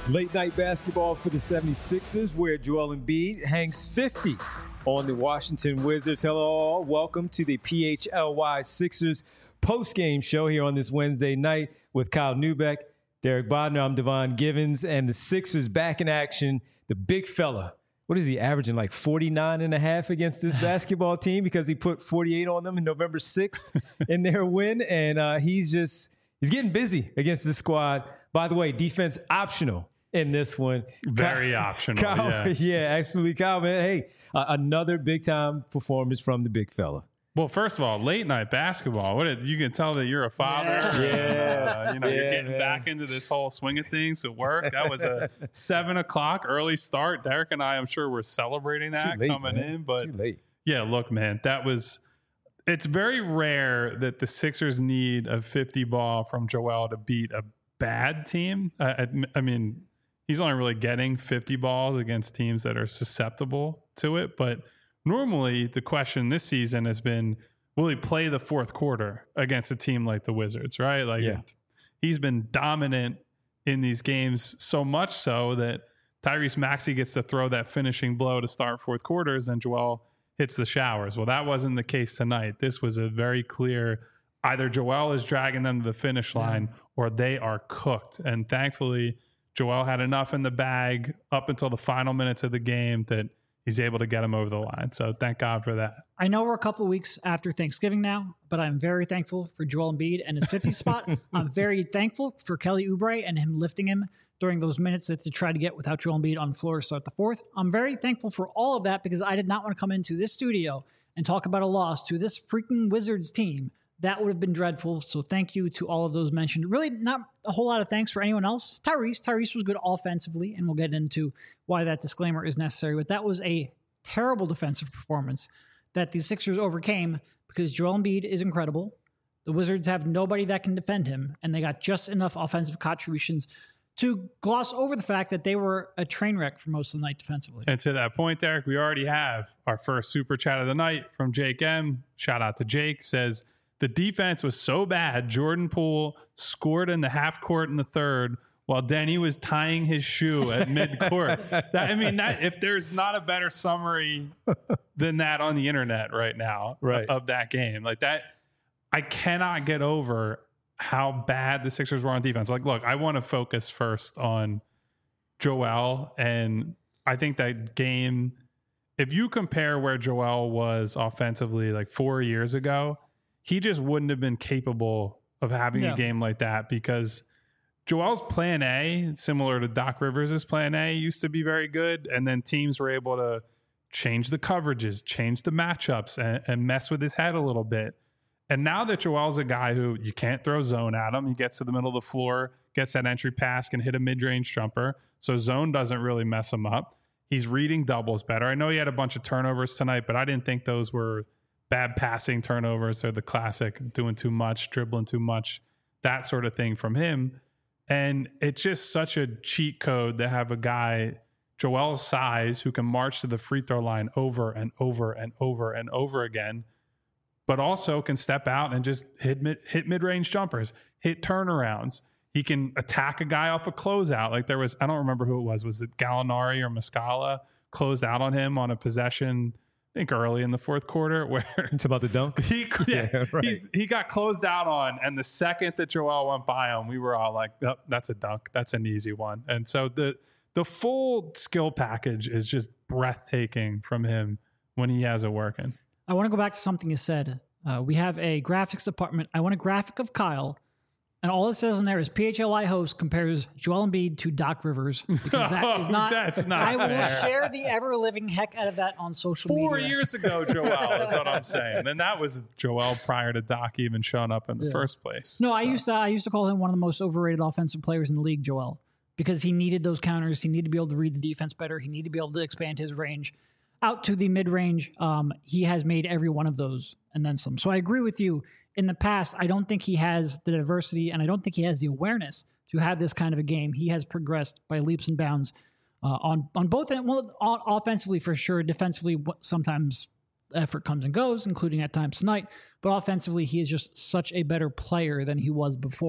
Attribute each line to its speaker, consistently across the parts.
Speaker 1: Late night basketball for the 76ers, where Joel Embiid hangs 50 on the Washington Wizards. Hello, welcome to the PHLY Sixers post-game show here on this Wednesday night with Kyle Neubeck, Derek Bodner. I'm Devon Givens, and the Sixers back in action. The big fella, what is he averaging, like 49 and a half against this basketball team because he put 48 on them in November 6th in their win, and he's getting busy against this squad. By the way, defense optional in this one.
Speaker 2: Very optional.
Speaker 1: Kyle, yeah, absolutely. Kyle, man, hey, another big-time performance from the big fella.
Speaker 2: Well, first of all, late night basketball. You can tell that you're a father.
Speaker 1: Yeah.
Speaker 2: You're getting back into this whole swing of things at work. That was a 7 o'clock early start. Derek and I'm sure we're celebrating that coming in. But
Speaker 1: too late.
Speaker 2: Yeah, look, man, it's very rare that the Sixers need a 50 ball from Joel to beat a bad team. I mean, he's only really getting 50 balls against teams that are susceptible to it. But normally the question this season has been, will he play the fourth quarter against a team like the Wizards, right? He's been dominant in these games, so much so that Tyrese Maxey gets to throw that finishing blow to start fourth quarters and Joel hits the showers. Well, that wasn't the case tonight. This was a very clear, either Joel is dragging them to the finish line or they are cooked. And thankfully, Joel had enough in the bag up until the final minutes of the game that he's able to get him over the line. So thank God for that.
Speaker 3: I know we're a couple of weeks after Thanksgiving now, but I'm very thankful for Joel Embiid and his 50 spot. I'm very thankful for Kelly Oubre and him lifting him during those minutes that to try to get without Joel Embiid on the floor to start the fourth. I'm very thankful for all of that because I did not want to come into this studio and talk about a loss to this freaking Wizards team. That would have been dreadful. So thank you to all of those mentioned. Really not a whole lot of thanks for anyone else. Tyrese was good offensively, and we'll get into why that disclaimer is necessary. But that was a terrible defensive performance that the Sixers overcame because Joel Embiid is incredible. The Wizards have nobody that can defend him, and they got just enough offensive contributions to gloss over the fact that they were a train wreck for most of the night defensively.
Speaker 2: And to that point, Derek, we already have our first super chat of the night from Jake M. Shout out to Jake. Says, the defense was so bad, Jordan Poole scored in the half court in the third while Denny was tying his shoe at midcourt. If there's not a better summary than that on the internet right now of that game. Like that, I cannot get over how bad the Sixers were on defense. Like, look, I want to focus first on Joel, and I think that game, if you compare where Joel was offensively like 4 years ago, he just wouldn't have been capable of having a game like that because Joel's plan A, similar to Doc Rivers' plan A, used to be very good. And then teams were able to change the coverages, change the matchups, and mess with his head a little bit. And now that Joel's a guy who you can't throw zone at him, he gets to the middle of the floor, gets that entry pass, can hit a mid-range jumper. So zone doesn't really mess him up. He's reading doubles better. I know he had a bunch of turnovers tonight, but I didn't think those were bad passing turnovers. They're the classic doing too much, dribbling too much, that sort of thing from him. And it's just such a cheat code to have a guy Joel's size who can march to the free throw line over and over and over and over again, but also can step out and just hit mid-range jumpers, hit turnarounds. He can attack a guy off a closeout. Like there was, I don't remember who it was it Gallinari or Muscala closed out on him on a possession, I think early in the fourth quarter, where
Speaker 1: it's about the dunk.
Speaker 2: He got closed out on, and the second that Joel went by him, we were all like, oh, that's a dunk. That's an easy one. And so the full skill package is just breathtaking from him when he has it working.
Speaker 3: I want to go back to something you said. We have a graphics department. I want a graphic of Kyle, and all it says on there is PHLI host compares Joel Embiid to Doc Rivers. Because that is not.
Speaker 2: That's not.
Speaker 3: I will share the ever-living heck out of that on social media.
Speaker 2: 4 years ago, Joel is what I'm saying, and that was Joel prior to Doc even showing up in the first place.
Speaker 3: No, so. I used to call him one of the most overrated offensive players in the league, Joel, because he needed those counters. He needed to be able to read the defense better. He needed to be able to expand his range out to the mid-range. He has made every one of those and then some. So I agree with you. In the past, I don't think he has the diversity, and I don't think he has the awareness to have this kind of a game. He has progressed by leaps and bounds on both ends. Well, offensively for sure. Defensively, sometimes effort comes and goes, including at times tonight. But offensively, he is just such a better player than he was before.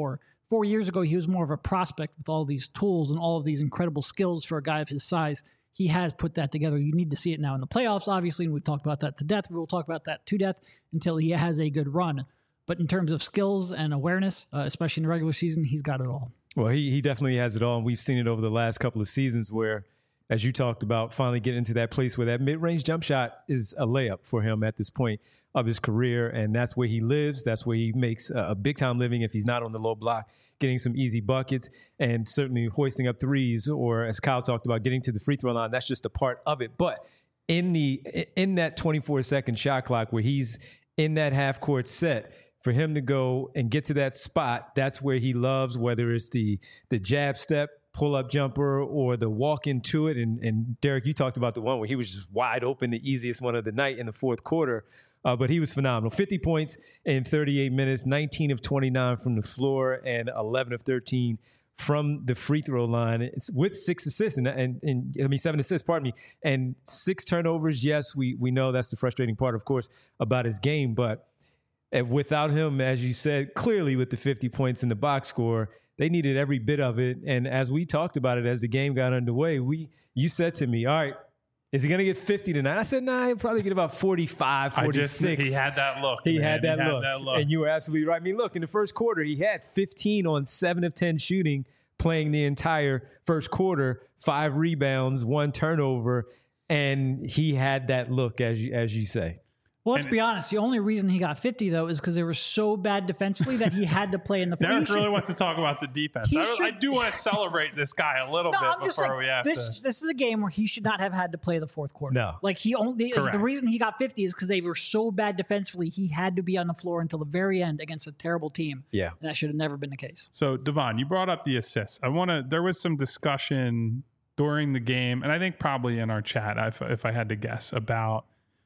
Speaker 3: 4 years ago, he was more of a prospect with all these tools and all of these incredible skills for a guy of his size. He has put that together. You need to see it now in the playoffs, obviously, and we've talked about that to death. We will talk about that to death until he has a good run. But in terms of skills and awareness, especially in the regular season, he's got it all.
Speaker 1: Well, he definitely has it all, and we've seen it over the last couple of seasons where, as you talked about, finally getting into that place where that mid-range jump shot is a layup for him at this point of his career, and that's where he lives. That's where he makes a big-time living if he's not on the low block, getting some easy buckets, and certainly hoisting up threes, or as Kyle talked about, getting to the free throw line. That's just a part of it. But in that 24-second shot clock where he's in that half-court set, for him to go and get to that spot, that's where he loves, whether it's the jab step, pull-up jumper, or the walk into it. And Derek, you talked about the one where he was just wide open, the easiest one of the night in the fourth quarter. But he was phenomenal. 50 points in 38 minutes, 19 of 29 from the floor, and 11 of 13 from the free throw line, with 6 assists and 7 assists, pardon me, and 6 turnovers. Yes, we know that's the frustrating part, of course, about his game. But without him, as you said, clearly with the 50 points in the box score, they needed every bit of it. And as we talked about it as the game got underway, you said to me, all right, is he going to get 50 tonight? I said, nah, he'll probably get about 45, 46.
Speaker 2: He had that look.
Speaker 1: He had that look. And you were absolutely right. I mean, look, in the first quarter, he had 15 on 7 of 10 shooting, playing the entire first quarter, 5 rebounds, 1 turnover, and he had that look, as you say.
Speaker 3: Well, let's be honest. The only reason he got 50, though, is because they were so bad defensively that he had to play in the floor.
Speaker 2: Derek really wants to talk about the defense. I do want to celebrate this guy a little bit before we have
Speaker 3: this is a game where he should not have had to play the fourth quarter.
Speaker 1: No.
Speaker 3: Like, the reason he got 50 is because they were so bad defensively, he had to be on the floor until the very end against a terrible team.
Speaker 1: Yeah.
Speaker 3: And that should have never been the case.
Speaker 2: So, Devon, you brought up the assists. There was some discussion during the game, and I think probably in our chat, if I had to guess, about,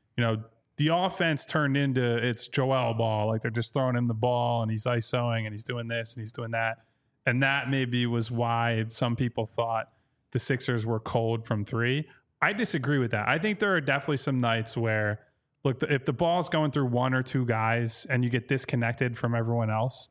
Speaker 2: the offense turned into it's Joel ball. Like, they're just throwing him the ball and he's ISOing and he's doing this and he's doing that. And that maybe was why some people thought the Sixers were cold from 3. I disagree with that. I think there are definitely some nights where, look, if the ball's going through 1 or 2 guys and you get disconnected from everyone else,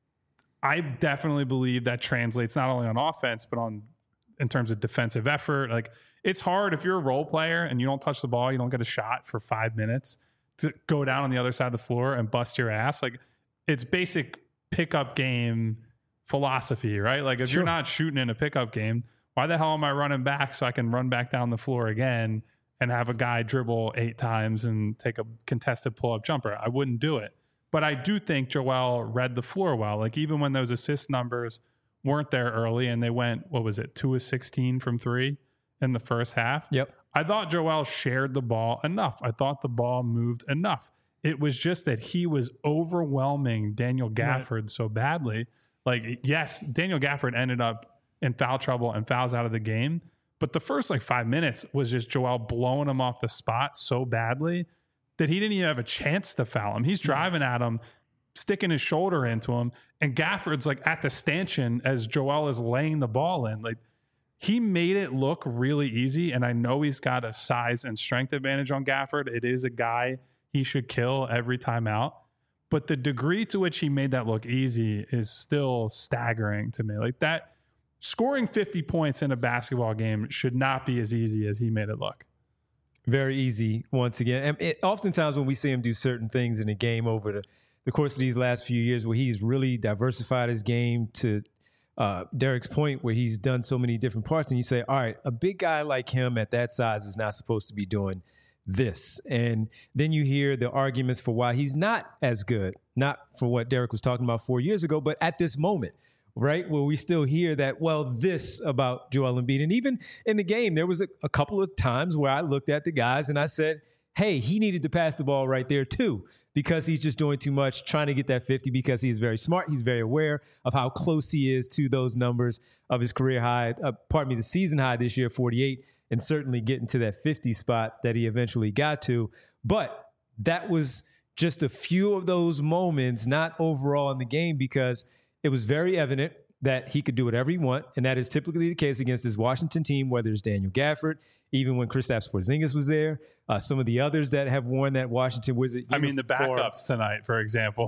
Speaker 2: I definitely believe that translates not only on offense, but in terms of defensive effort. Like, it's hard if you're a role player and you don't touch the ball, you don't get a shot for 5 minutes, to go down on the other side of the floor and bust your ass. Like, it's basic pickup game philosophy, right? Like, if you're not shooting in a pickup game, why the hell am I running back so I can run back down the floor again and have a guy dribble 8 times and take a contested pull-up jumper? I wouldn't do it. But I do think Joel read the floor well. Like, even when those assist numbers weren't there early and they went, 2 of 16 from 3 in the first half.
Speaker 1: Yep.
Speaker 2: I thought Joel shared the ball enough. I thought the ball moved enough. It was just that he was overwhelming Daniel Gafford so badly. Like, yes, Daniel Gafford ended up in foul trouble and fouls out of the game. But the first 5 minutes was just Joel blowing him off the spot so badly that he didn't even have a chance to foul him. He's driving at him, sticking his shoulder into him, and Gafford's at the stanchion as Joel is laying the ball in. Like, he made it look really easy, and I know he's got a size and strength advantage on Gafford. It is a guy he should kill every time out. But the degree to which he made that look easy is still staggering to me. Like, that scoring 50 points in a basketball game should not be as easy as he made it look.
Speaker 1: Very easy, once again. And oftentimes when we see him do certain things in a game over the course of these last few years, where he's really diversified his game to Derek's point, where he's done so many different parts, and you say, all right, a big guy like him at that size is not supposed to be doing this. And then you hear the arguments for why he's not as good, not for what Derek was talking about 4 years ago, but at this moment, right, where we still hear that, this about Joel Embiid. And even in the game, there was a couple of times where I looked at the guys and I said, hey, he needed to pass the ball right there too, because he's just doing too much, trying to get that 50, because he's very smart. He's very aware of how close he is to those numbers of his career high, the season high this year, 48, and certainly getting to that 50 spot that he eventually got to. But that was just a few of those moments, not overall in the game, because it was very evident that he could do whatever he want, and that is typically the case against this Washington team, whether it's Daniel Gafford, even when Kristaps Porzingis was there, some of the others that have worn that Washington Wizard uniform.
Speaker 2: I mean, the backups tonight, for example.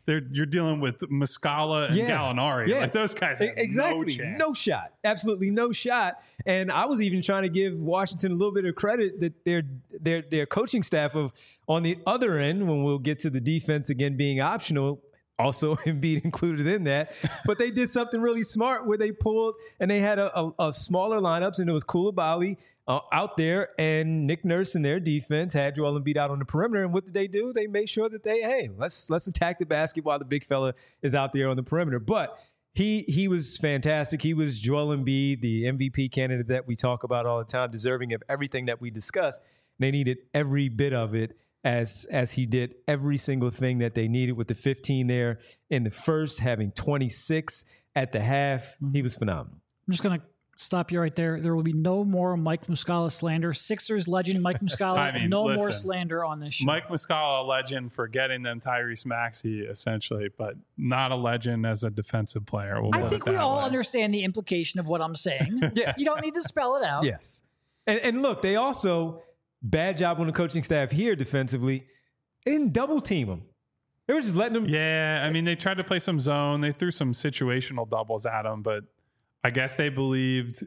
Speaker 2: you're dealing with Muscala and Gallinari.
Speaker 1: Yeah.
Speaker 2: Like those guys have
Speaker 1: exactly.
Speaker 2: no chance.
Speaker 1: No shot. Absolutely no shot. And I was even trying to give Washington a little bit of credit that their coaching staff of on the other end, when we'll get to the defense again being optional, also Embiid included in that. But they did something really smart where they pulled and they had a smaller lineups, and it was Coulibaly out there, and Nick Nurse in their defense had Joel Embiid out on the perimeter. And what did they do? They made sure that let's attack the basket while the big fella is out there on the perimeter. But he was fantastic. He was Joel Embiid, the MVP candidate that we talk about all the time, deserving of everything that we discussed. They needed every bit of it as he did every single thing that they needed with the 15 there in the first, having 26 at the half. He was phenomenal.
Speaker 3: I'm just going to stop you right there. There will be no more Mike Muscala slander. Sixers legend Mike Muscala, more slander on this show.
Speaker 2: Mike Muscala, a legend for getting them Tyrese Maxey, essentially, but not a legend as a defensive player.
Speaker 3: I think we all understand the implication of what I'm saying.
Speaker 1: Yes.
Speaker 3: You don't need to spell it out.
Speaker 1: Yes. And look, they also, bad job on the coaching staff here defensively, they didn't double team him. They were just letting them.
Speaker 2: Yeah, I mean, they tried to play some zone. They threw some situational doubles at him, but I guess they believed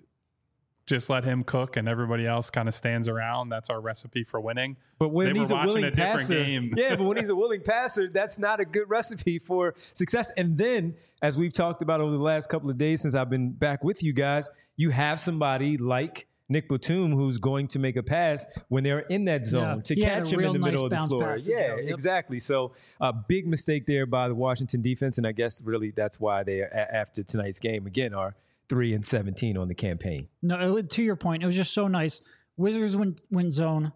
Speaker 2: just let him cook and everybody else kind of stands around. That's our recipe for winning.
Speaker 1: But when he's a willing passer, yeah, but when he's a willing passer, that's not a good recipe for success. And then, as we've talked about over the last couple of days since I've been back with you guys, you have somebody like Nick Batum who's going to make a pass when they're in that zone to catch him in the middle of the floor. Yeah, exactly. So a big mistake there by the Washington defense, and I guess really that's why they, after tonight's game, again, are 3-17 on the campaign.
Speaker 3: No, to your point, it was just so nice. Wizards win zone.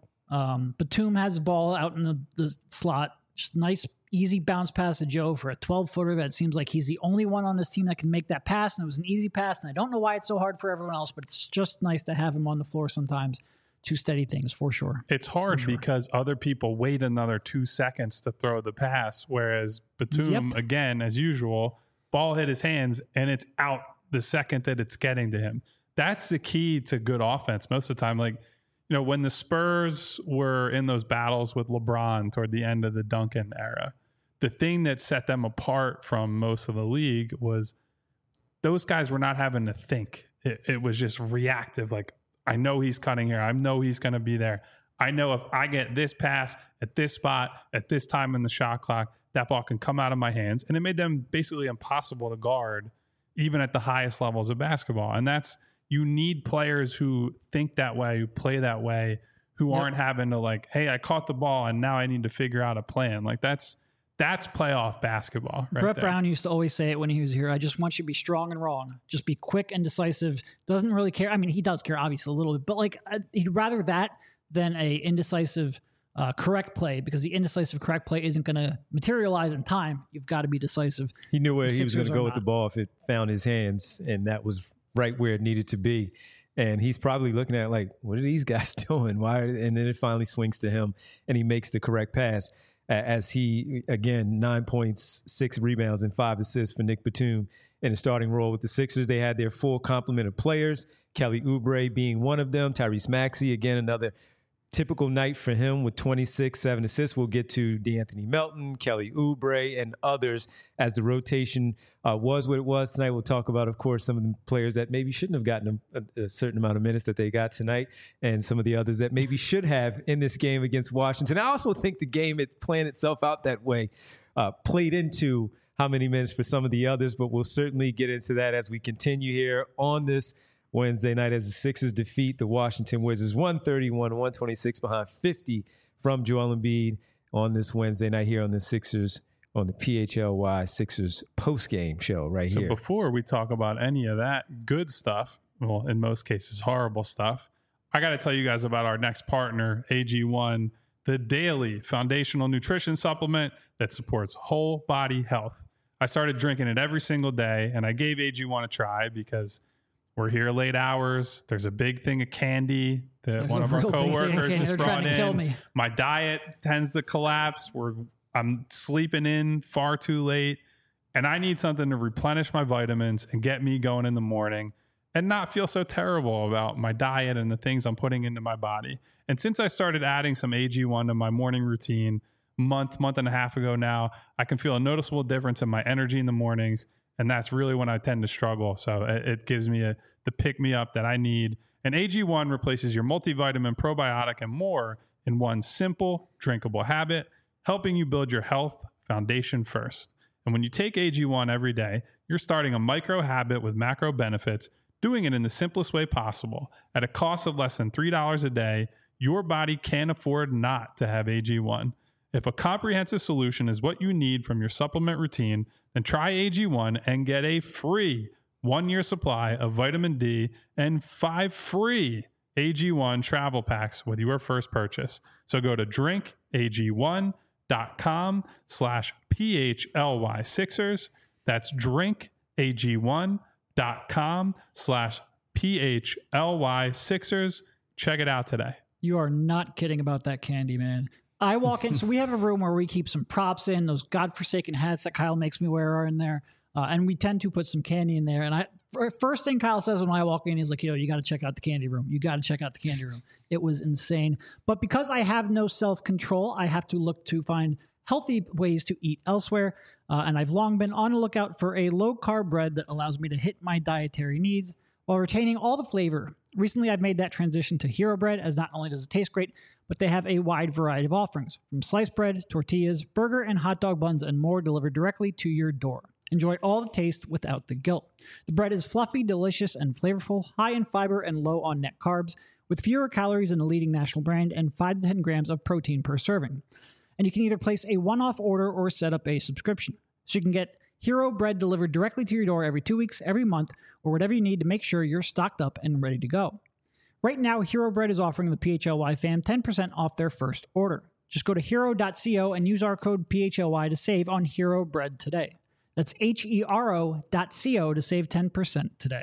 Speaker 3: Batum has the ball out in the slot. Just nice, easy bounce pass to Joe for a 12-footer that seems like he's the only one on this team that can make that pass, and it was an easy pass, and I don't know why it's so hard for everyone else, but it's just nice to have him on the floor sometimes to steady things, for sure.
Speaker 2: It's hard because other people wait another 2 seconds to throw the pass, whereas Batum, again, as usual, ball hit his hands, and it's out the second that it's getting to him. That's the key to good offense most of the time. Like, you know, when the Spurs were in those battles with LeBron toward the end of the Duncan era, the thing that set them apart from most of the league was those guys were not having to think. It was just reactive. Like, I know he's cutting here. I know he's going to be there. I know if I get this pass at this spot at this time in the shot clock, that ball can come out of my hands. And it made them basically impossible to guard even at the highest levels of basketball. And that's, you need players who think that way, who play that way, who aren't having to like, hey, I caught the ball and now I need to figure out a plan. Like that's playoff basketball. Right.
Speaker 3: Brett Brown used to always say it when he was here. I just want you to be strong and wrong. Just be quick and decisive. Doesn't really care. I mean, he does care obviously a little bit, but like he'd rather that than a indecisive correct play, because the indecisive correct play isn't going to materialize in time. You've got to be decisive.
Speaker 1: He knew where he was going to go with the ball if it found his hands, and that was right where it needed to be. And he's probably looking at it like, what are these guys doing? Why? And then it finally swings to him, and he makes the correct pass. As he, again, 9 points, 6 rebounds, and 5 assists for Nick Batum in a starting role with the Sixers. They had their full complement of players, Kelly Oubre being one of them, Tyrese Maxey, again, another typical night for him with 26, 7 assists. We'll get to DeAnthony Melton, Kelly Oubre, and others as the rotation was what it was tonight. We'll talk about, of course, some of the players that maybe shouldn't have gotten a certain amount of minutes that they got tonight, and some of the others that maybe should have in this game against Washington. I also think the game, it playing itself out that way, played into how many minutes for some of the others, but we'll certainly get into that as we continue here on this Wednesday night as the Sixers defeat the Washington Wizards 131-126 behind 50 from Joel Embiid on this Wednesday night here on the Sixers, on the PHLY Sixers postgame show right here.
Speaker 2: So before we talk about any of that good stuff, well, in most cases, horrible stuff, I got to tell you guys about our next partner, AG1, the daily foundational nutrition supplement that supports whole body health. I started drinking it every single day, and I gave AG1 a try because we're here late hours. There's a big thing of candy that one of our coworkers just brought in. My diet tends to collapse. I'm sleeping in far too late, and I need something to replenish my vitamins and get me going in the morning and not feel so terrible about my diet and the things I'm putting into my body. And since I started adding some AG1 to my morning routine, month and a half ago now, I can feel a noticeable difference in my energy in the mornings. And that's really when I tend to struggle. So it gives me the pick me up that I need. And AG1 replaces your multivitamin, probiotic, and more in one simple, drinkable habit, helping you build your health foundation first. And when you take AG1 every day, you're starting a micro habit with macro benefits, doing it in the simplest way possible. At a cost of less than $3 a day, your body can't afford not to have AG1. If a comprehensive solution is what you need from your supplement routine, then try AG1 and get a free 1-year supply of vitamin D and 5 free AG1 travel packs with your first purchase. So go to drinkag1.com/PHLY6ers. That's drinkag1.com/PHLY6ers. Check it out today.
Speaker 3: You are not kidding about that candy, man. I walk in, so we have a room where we keep some props in. Those godforsaken hats that Kyle makes me wear are in there. And we tend to put some candy in there. And first thing Kyle says when I walk in, he's like, yo, you got to check out the candy room. You got to check out the candy room. It was insane. But because I have no self-control, I have to look to find healthy ways to eat elsewhere. And I've long been on the lookout for a low-carb bread that allows me to hit my dietary needs while retaining all the flavor. Recently, I've made that transition to Hero Bread, as not only does it taste great, but they have a wide variety of offerings, from sliced bread, tortillas, burger and hot dog buns, and more delivered directly to your door. Enjoy all the taste without the guilt. The bread is fluffy, delicious, and flavorful, high in fiber and low on net carbs, with fewer calories than the leading national brand and 5 to 10 grams of protein per serving. And you can either place a one-off order or set up a subscription. So you can get Hero Bread delivered directly to your door every 2 weeks, every month, or whatever you need to make sure you're stocked up and ready to go. Right now, Hero Bread is offering the PHLY fam 10% off their first order. Just go to hero.co and use our code PHLY to save on Hero Bread today. That's HERO.co to save 10% today.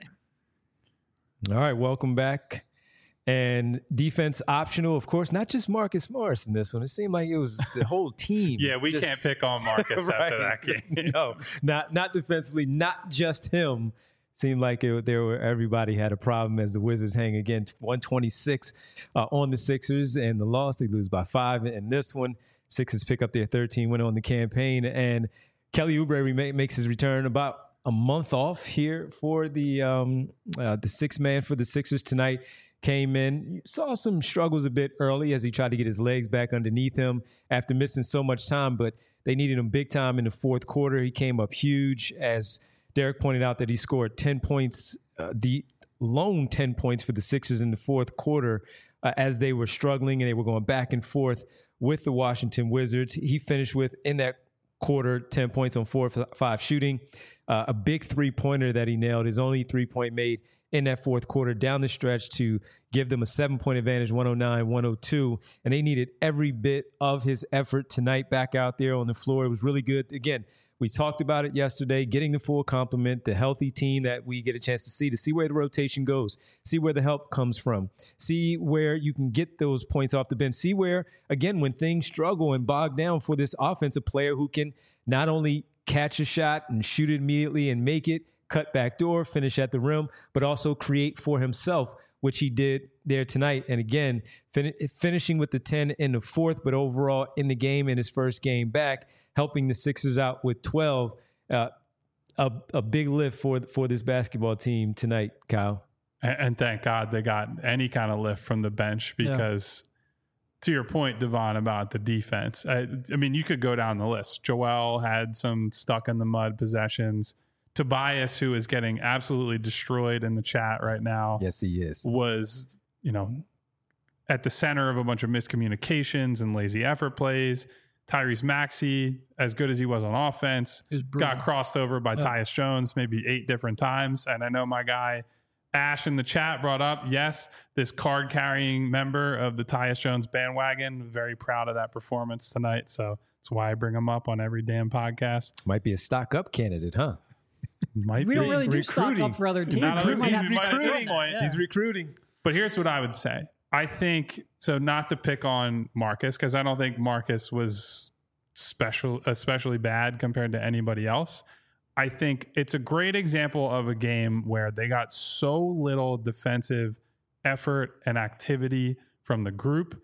Speaker 1: All right, welcome back. And defense optional, of course, not just Marcus Morris in this one. It seemed like it was the whole team.
Speaker 2: Yeah, we can't pick on Marcus
Speaker 1: right.
Speaker 2: after that game.
Speaker 1: No, not defensively, not just him. Seemed like everybody had a problem as the Wizards hang again 126 on the Sixers, and the loss, they lose by 5 in this one. Sixers pick up their 13 win on the campaign, and Kelly Oubre makes his return about a month off here for the sixth man for the Sixers tonight. Came in, saw some struggles a bit early as he tried to get his legs back underneath him after missing so much time, but they needed him big time in the fourth quarter. He came up huge, as Derek pointed out, that he scored 10 points, the lone 10 points for the Sixers in the fourth quarter as they were struggling and they were going back and forth with the Washington Wizards. He finished with, in that quarter, 10 points on 4 of 5 shooting, a big three-pointer that he nailed, his only three-point made in that fourth quarter down the stretch to give them a 7-point advantage, 109-102. And they needed every bit of his effort tonight back out there on the floor. It was really good. Again, we talked about it yesterday, getting the full complement, the healthy team that we get a chance to see where the rotation goes, see where the help comes from, see where you can get those points off the bench, see where, again, when things struggle and bog down for this offensive player who can not only catch a shot and shoot it immediately and make it, cut back door, finish at the rim, but also create for himself, which he did there tonight. And again, finishing with the 10 in the fourth, but overall in the game, in his first game back, helping the Sixers out with 12. A big lift for this basketball team tonight, Kyle.
Speaker 2: And thank God they got any kind of lift from the bench, because to your point, Devon, about the defense, I mean, you could go down the list. Joel had some stuck in the mud possessions. Tobias, who is getting absolutely destroyed in the chat right now.
Speaker 1: Yes, he is.
Speaker 2: Was, at the center of a bunch of miscommunications and lazy effort plays. Tyrese Maxey, as good as he was on offense, got crossed over by Tyus Jones maybe 8 different times. And I know my guy Ash in the chat brought up, yes, this card-carrying member of the Tyus Jones bandwagon. Very proud of that performance tonight. So that's why I bring him up on every damn podcast.
Speaker 1: Might be a stock-up candidate, huh?
Speaker 3: We don't really do stock up for other teams.
Speaker 1: He's recruiting.
Speaker 2: But here's what I would say. I think, so not to pick on Marcus, because I don't think Marcus was especially bad compared to anybody else. I think it's a great example of a game where they got so little defensive effort and activity from the group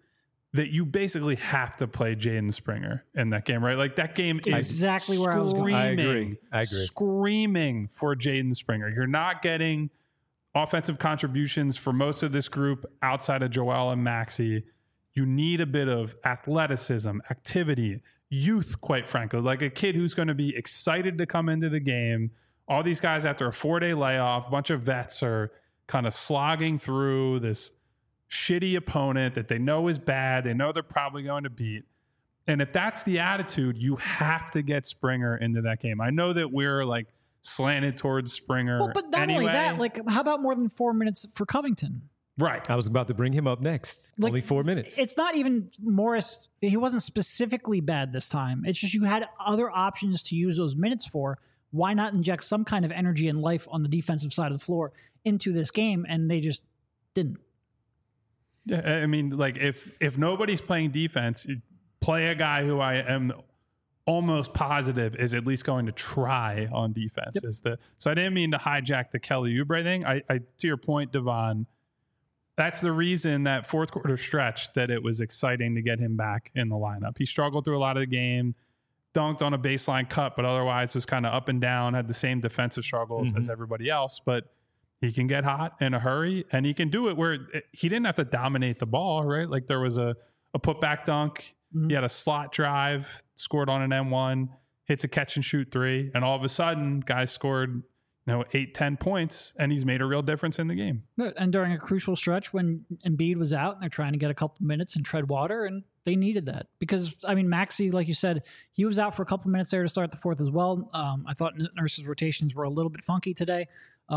Speaker 2: that you basically have to play Jaden Springer in that game, right? Like that game is
Speaker 3: exactly where I was going.
Speaker 1: I agree.
Speaker 2: Screaming for Jaden Springer. You're not getting offensive contributions for most of this group outside of Joel and Maxey. You need a bit of athleticism, activity, youth, quite frankly, like a kid who's going to be excited to come into the game. All these guys after a 4-day layoff, a bunch of vets are kind of slogging through this shitty opponent that they know is bad. They know they're probably going to beat. And if that's the attitude, you have to get Springer into that game. I know that we're like slanted towards Springer.
Speaker 3: Well, but not only that, like, how about more than 4 minutes for Covington?
Speaker 2: Right.
Speaker 1: I was about to bring him up next.
Speaker 3: Like,
Speaker 1: only 4 minutes.
Speaker 3: It's not even Morris. He wasn't specifically bad this time. It's just you had other options to use those minutes for. Why not inject some kind of energy and life on the defensive side of the floor into this game? And they just didn't.
Speaker 2: Yeah, I mean, like if nobody's playing defense, you play a guy who I am almost positive is at least going to try on defense. Yep. So I didn't mean to hijack the Kelly Oubre thing. I to your point, Devon, that's the reason that fourth quarter stretch that it was exciting to get him back in the lineup. He struggled through a lot of the game, dunked on a baseline cut, but otherwise was kind of up and down, had the same defensive struggles as everybody else. But he can get hot in a hurry, and he can do it where he didn't have to dominate the ball, right? Like there was a putback dunk. He had a slot drive, scored on an M1, hits a catch and shoot 3, and all of a sudden, guys scored 8-10 points, and he's made a real difference in the game.
Speaker 3: And during a crucial stretch when Embiid was out, and they're trying to get a couple minutes and tread water, and they needed that. Because, I mean, Maxey, like you said, he was out for a couple minutes there to start the fourth as well. I thought Nurse's rotations were a little bit funky today.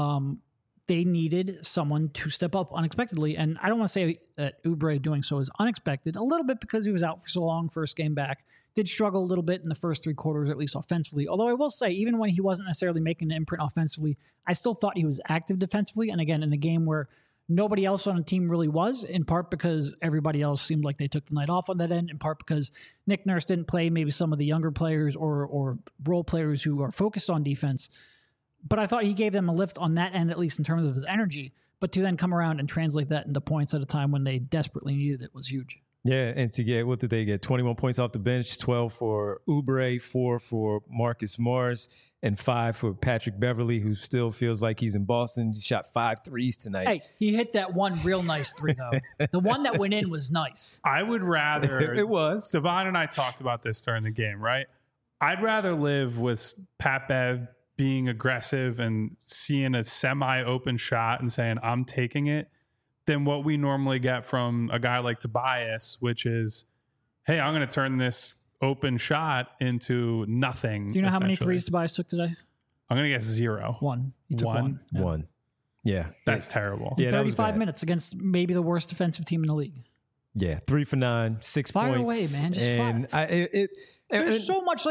Speaker 3: They needed someone to step up unexpectedly. And I don't want to say that Oubre doing so is unexpected, a little bit because he was out for so long, first game back. Did struggle a little bit in the first 3 quarters, at least offensively. Although I will say, even when he wasn't necessarily making an imprint offensively, I still thought he was active defensively. And again, in a game where nobody else on the team really was, in part because everybody else seemed like they took the night off on that end, in part because Nick Nurse didn't play maybe some of the younger players or role players who are focused on defense. But I thought he gave them a lift on that end, at least in terms of his energy. But to then come around and translate that into points at a time when they desperately needed it was huge.
Speaker 1: Yeah, and to get, what did they get? 21 points off the bench, 12 for Oubre, 4 for Marcus Morris, and 5 for Patrick Beverly, who still feels like he's in Boston. He shot 5 threes tonight.
Speaker 3: Hey, he hit that one real nice 3, though. The one that went in was nice.
Speaker 2: I would rather...
Speaker 1: It was.
Speaker 2: Devon and I talked about this during the game, right? I'd rather live with Pat Bev being aggressive and seeing a semi-open shot and saying, I'm taking it, than what we normally get from a guy like Tobias, which is, hey, I'm going to turn this open shot into nothing.
Speaker 3: Do you know how many threes Tobias took today?
Speaker 2: I'm going to guess 0.
Speaker 3: 1. He took 1.
Speaker 1: Yeah. 1. Yeah.
Speaker 2: That's terrible.
Speaker 1: Yeah,
Speaker 3: 35 minutes against maybe the worst defensive team in the league.
Speaker 1: Yeah. 3 for 9, 6
Speaker 3: fire
Speaker 1: points.
Speaker 3: Away, man. Just fire. There's so much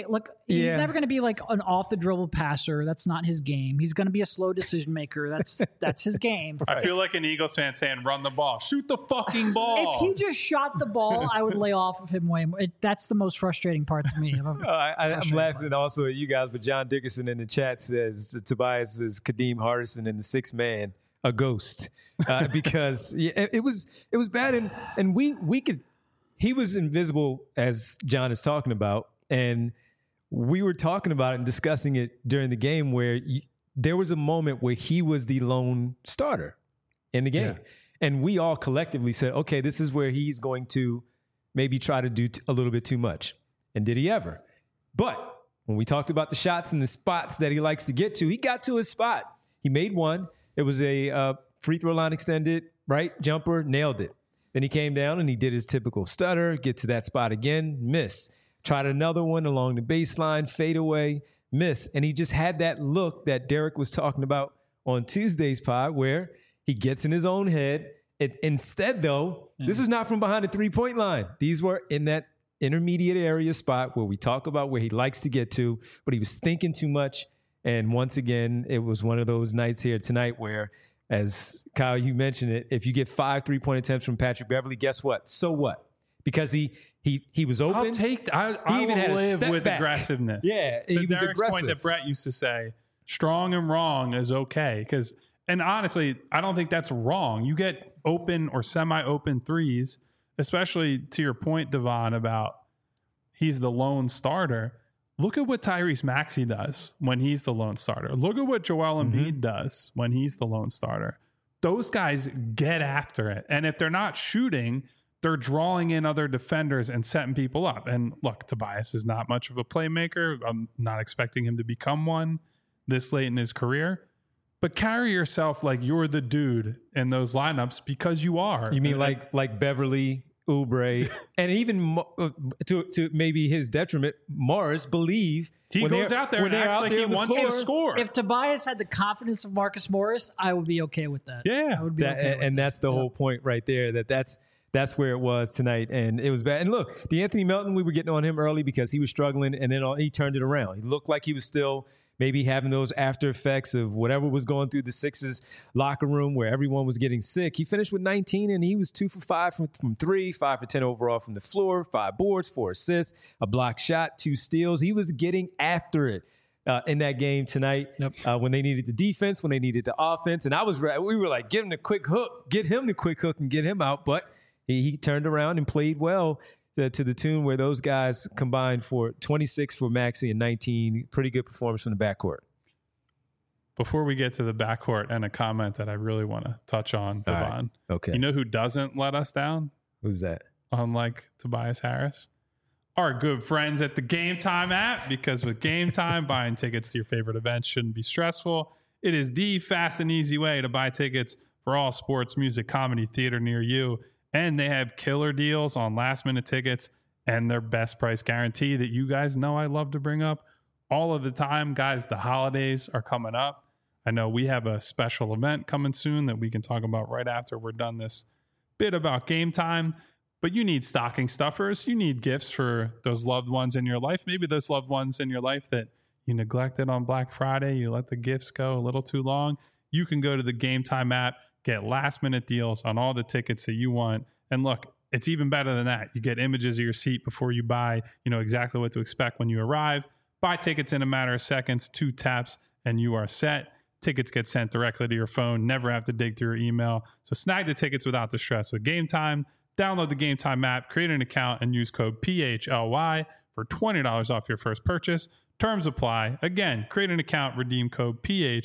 Speaker 3: he's never going to be like an off the dribble passer. That's not his game. He's going to be a slow decision maker. That's his game.
Speaker 2: I feel like an Eagles fan saying, run the ball, shoot the fucking ball.
Speaker 3: If he just shot the ball, I would lay off of him way more. That's the most frustrating part to me.
Speaker 1: I'm laughing also at you guys, but John Dickerson in the chat says Tobias is Kadeem Hardison in the 6th man, a ghost, because it was bad, and we could. He was invisible, as John is talking about, and we were talking about it and discussing it during the game where there was a moment where he was the lone starter in the game. Yeah. And we all collectively said, okay, this is where he's going to maybe try to do a little bit too much. And did he ever? But when we talked about the shots and the spots that he likes to get to, he got to his spot. He made one. It was a free throw line extended, right? Jumper, nailed it. Then he came down and he did his typical stutter, get to that spot again, miss. Tried another one along the baseline, fade away, miss. And he just had that look that Derek was talking about on Tuesday's pod where he gets in his own head. Instead, though, this was not from behind the three-point line. These were in that intermediate area spot where we talk about where he likes to get to, but he was thinking too much. And once again, it was one of those nights here tonight where, as Kyle, you mentioned it, if you get 5 3-point attempts from Patrick Beverly, guess what? So what? Because he was open.
Speaker 2: I even had live with back. Aggressiveness.
Speaker 1: Yeah,
Speaker 2: to
Speaker 1: he was
Speaker 2: Derek's
Speaker 1: aggressive.
Speaker 2: Point that Brett used to say, strong and wrong is okay. And honestly, I don't think that's wrong. You get open or semi-open threes, especially to your point, Devon, about he's the lone starter. Look at what Tyrese Maxey does when he's the lone starter. Look at what Joel Embiid does when he's the lone starter. Those guys get after it. And if they're not shooting, they're drawing in other defenders and setting people up. And look, Tobias is not much of a playmaker. I'm not expecting him to become one this late in his career. But carry yourself like you're the dude in those lineups, because you are.
Speaker 1: You mean like Beverly, Oubre, and even to maybe his detriment, Morris believe
Speaker 2: he goes out there and acts like he wants to score.
Speaker 3: If Tobias had the confidence of Marcus Morris, I would be okay with that.
Speaker 2: Yeah,
Speaker 3: I would be okay with
Speaker 1: and that's the whole point right there. That's where it was tonight, and it was bad. And look, DeAnthony Melton, we were getting on him early because he was struggling, and then he turned it around. He looked like he was still maybe having those after effects of whatever was going through the Sixers locker room where everyone was getting sick. He finished with 19, and he was 2 for 5 from 3, 5 for 10 overall from the floor, 5 boards, 4 assists, a block shot, 2 steals. He was getting after it in that game tonight. When they needed the defense, when they needed the offense. And we were like, get him the quick hook and get him out. But he turned around and played well to the tune where those guys combined for 26 for Maxey and 19. Pretty good performance from the backcourt.
Speaker 2: Before we get to the backcourt and a comment that I really want to touch on, Devon.
Speaker 1: Right. Okay.
Speaker 2: You know who doesn't let us down?
Speaker 1: Who's that?
Speaker 2: Unlike Tobias Harris? Our good friends at the Game Time app, because with Game Time, buying tickets to your favorite events shouldn't be stressful. It is the fast and easy way to buy tickets for all sports, music, comedy, theater near you. And they have killer deals on last-minute tickets and their best price guarantee that you guys know I love to bring up all of the time. Guys, the holidays are coming up. I know we have a special event coming soon that we can talk about right after we're done this bit about Game Time. But you need stocking stuffers. You need gifts for those loved ones in your life. Maybe those loved ones in your life that you neglected on Black Friday. You let the gifts go a little too long. You can go to the Game Time app, get last-minute deals on all the tickets that you want. And look, it's even better than that. You get images of your seat before you buy. You know exactly what to expect when you arrive. Buy tickets in a matter of seconds, 2 taps, and you are set. Tickets get sent directly to your phone. Never have to dig through your email. So snag the tickets without the stress with Game Time. Download the Game Time app, create an account, and use code PHLY for $20 off your first purchase. Terms apply. Again, create an account, redeem code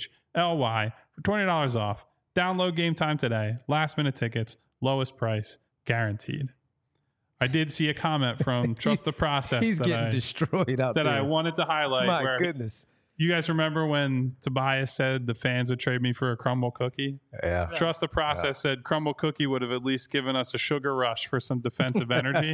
Speaker 2: PHLY for $20 off. Download Game Time today. Last-minute tickets, lowest price, guaranteed. I did see a comment from Trust the Process.
Speaker 1: He's getting destroyed out there.
Speaker 2: That I wanted to highlight.
Speaker 1: My goodness.
Speaker 2: You guys remember when Tobias said the fans would trade me for a crumble cookie?
Speaker 1: Yeah.
Speaker 2: Trust the Process said crumble cookie would have at least given us a sugar rush for some defensive energy.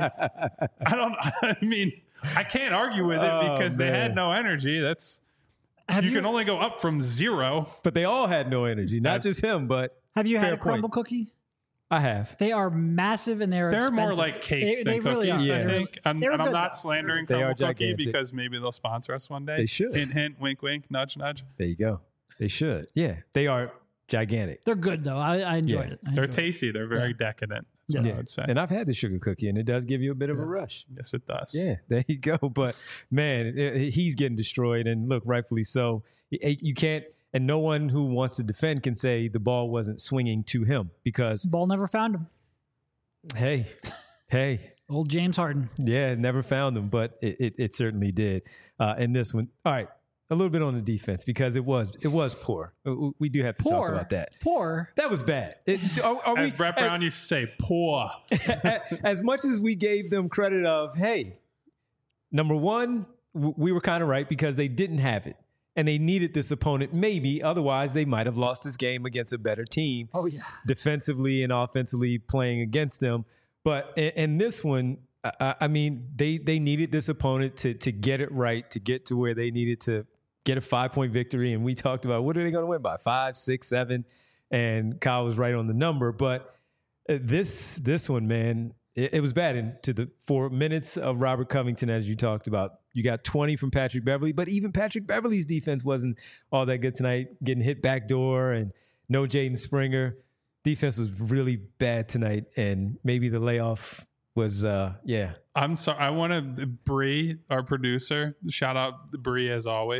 Speaker 2: I mean, I can't argue with it because they had no energy. You can only go up from 0.
Speaker 1: But they all had no energy, not just him, but
Speaker 3: have you had a
Speaker 1: point.
Speaker 3: crumble cookie?
Speaker 1: I have.
Speaker 3: They are massive and they're expensive.
Speaker 2: more like cakes than cookies,
Speaker 3: really
Speaker 2: I think. And I'm not
Speaker 3: though.
Speaker 2: slandering
Speaker 1: They are
Speaker 2: Crumble Cookie
Speaker 1: gigantic.
Speaker 2: because maybe they'll sponsor us one day.
Speaker 1: They should.
Speaker 2: Hint, hint, wink, wink, nudge, nudge.
Speaker 1: There you go. They should. Yeah, they are gigantic.
Speaker 3: They're good though. I enjoyed it.
Speaker 2: They're tasty. They're very decadent. That's what I would say.
Speaker 1: And I've had the sugar cookie, and it does give you a bit of a rush.
Speaker 2: Yes, it does.
Speaker 1: Yeah, there you go. But man, he's getting destroyed, and look, rightfully so. You can't, and no one who wants to defend can say the ball wasn't swinging to him because
Speaker 3: Ball never found him.
Speaker 1: Hey,
Speaker 3: Old James Harden.
Speaker 1: yeah, never found him, but it certainly did. And this one, all right, a little bit on the defense because it was poor. We do have to talk about that.
Speaker 3: Poor.
Speaker 1: That was bad.
Speaker 2: As Brett Brown used to say, poor.
Speaker 1: As much as we gave them credit of, hey, number one, we were kind of right because they didn't have it. And they needed this opponent, maybe. Otherwise, they might have lost this game against a better team.
Speaker 3: Oh, yeah.
Speaker 1: Defensively and offensively playing against them. But in this one, I mean, they needed this opponent to get it right, to get to where they needed to get a 5-point victory. And we talked about what are they going to win by? 5, 6, 7. And Kyle was right on the number. But this one, man, it was bad. And to the 4 minutes of Robert Covington, as you talked about, you got 20 from Patrick Beverley, but even Patrick Beverley's defense wasn't all that good tonight, getting hit backdoor and no Jaden Springer. Defense was really bad tonight, and maybe the layoff was,
Speaker 2: I'm sorry. I want to, Bree, our producer, shout out Bree as always.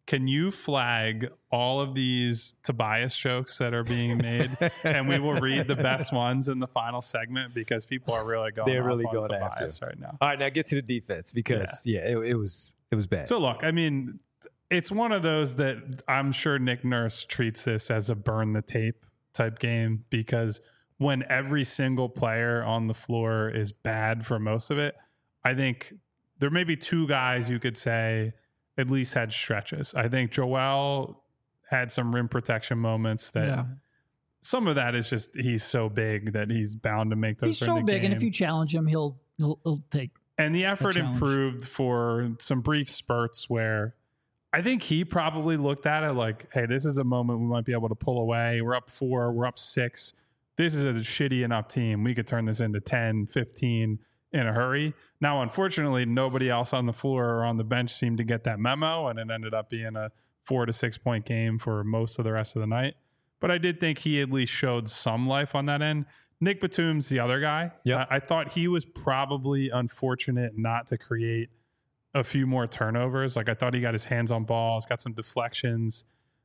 Speaker 2: can you flag all of these Tobias jokes that are being made, and we will read the best ones in the final segment because people are really going.
Speaker 1: They're really
Speaker 2: off
Speaker 1: going
Speaker 2: on
Speaker 1: after
Speaker 2: Tobias right now.
Speaker 1: All right, now get to the defense because it was bad.
Speaker 2: So look, I mean, it's one of those that I'm sure Nick Nurse treats this as a burn the tape type game, because when every single player on the floor is bad for most of it, I think there may be two guys you could say at least had stretches. I think Joel had some rim protection moments that some of that is just he's so big that he's bound to make those.
Speaker 3: He's so big, and if you challenge him, he'll take.
Speaker 2: And the effort improved for some brief spurts where I think he probably looked at it like, hey, this is a moment we might be able to pull away. We're up 4, we're up 6. This is a shitty enough team. We could turn this into 10, 15 in a hurry. Now, unfortunately, nobody else on the floor or on the bench seemed to get that memo, and it ended up being a 4 to 6 point game for most of the rest of the night. But I did think he at least showed some life on that end. Nick Batum's the other guy.
Speaker 1: Yep.
Speaker 2: I thought he was probably unfortunate not to create a few more turnovers. Like, I thought he got his hands on balls, got some deflections,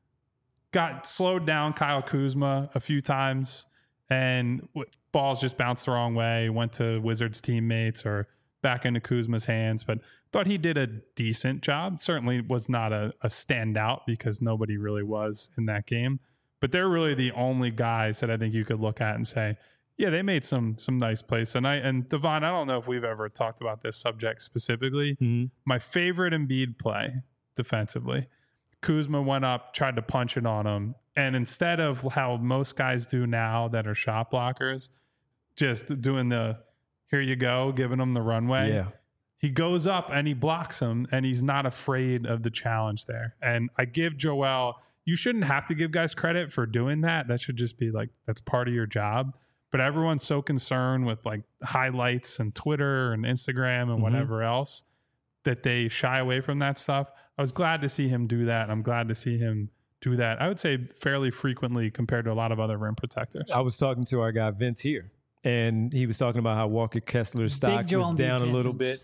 Speaker 2: got slowed down Kyle Kuzma a few times, and balls just bounced the wrong way, went to Wizards teammates or back into Kuzma's hands. But thought he did a decent job. Certainly was not a standout because nobody really was in that game. But they're really the only guys that I think you could look at and say, yeah, they made some nice plays tonight. And Devon, I don't know if we've ever talked about this subject specifically. Mm-hmm. My favorite Embiid play defensively, Kuzma went up, tried to punch it on him. And instead of how most guys do now that are shot blockers, just doing the, here you go, giving them the runway.
Speaker 1: Yeah.
Speaker 2: He goes up and he blocks him, and he's not afraid of the challenge there. And I give Joel, you shouldn't have to give guys credit for doing that. That should just be like, that's part of your job. But everyone's so concerned with like highlights and Twitter and Instagram and whatever else that they shy away from that stuff. I was glad to see him do that. I'm glad to see him do that, I would say, fairly frequently compared to a lot of other rim protectors.
Speaker 1: I was talking to our guy Vince here, and he was talking about how Walker Kessler's stock was down a little bit.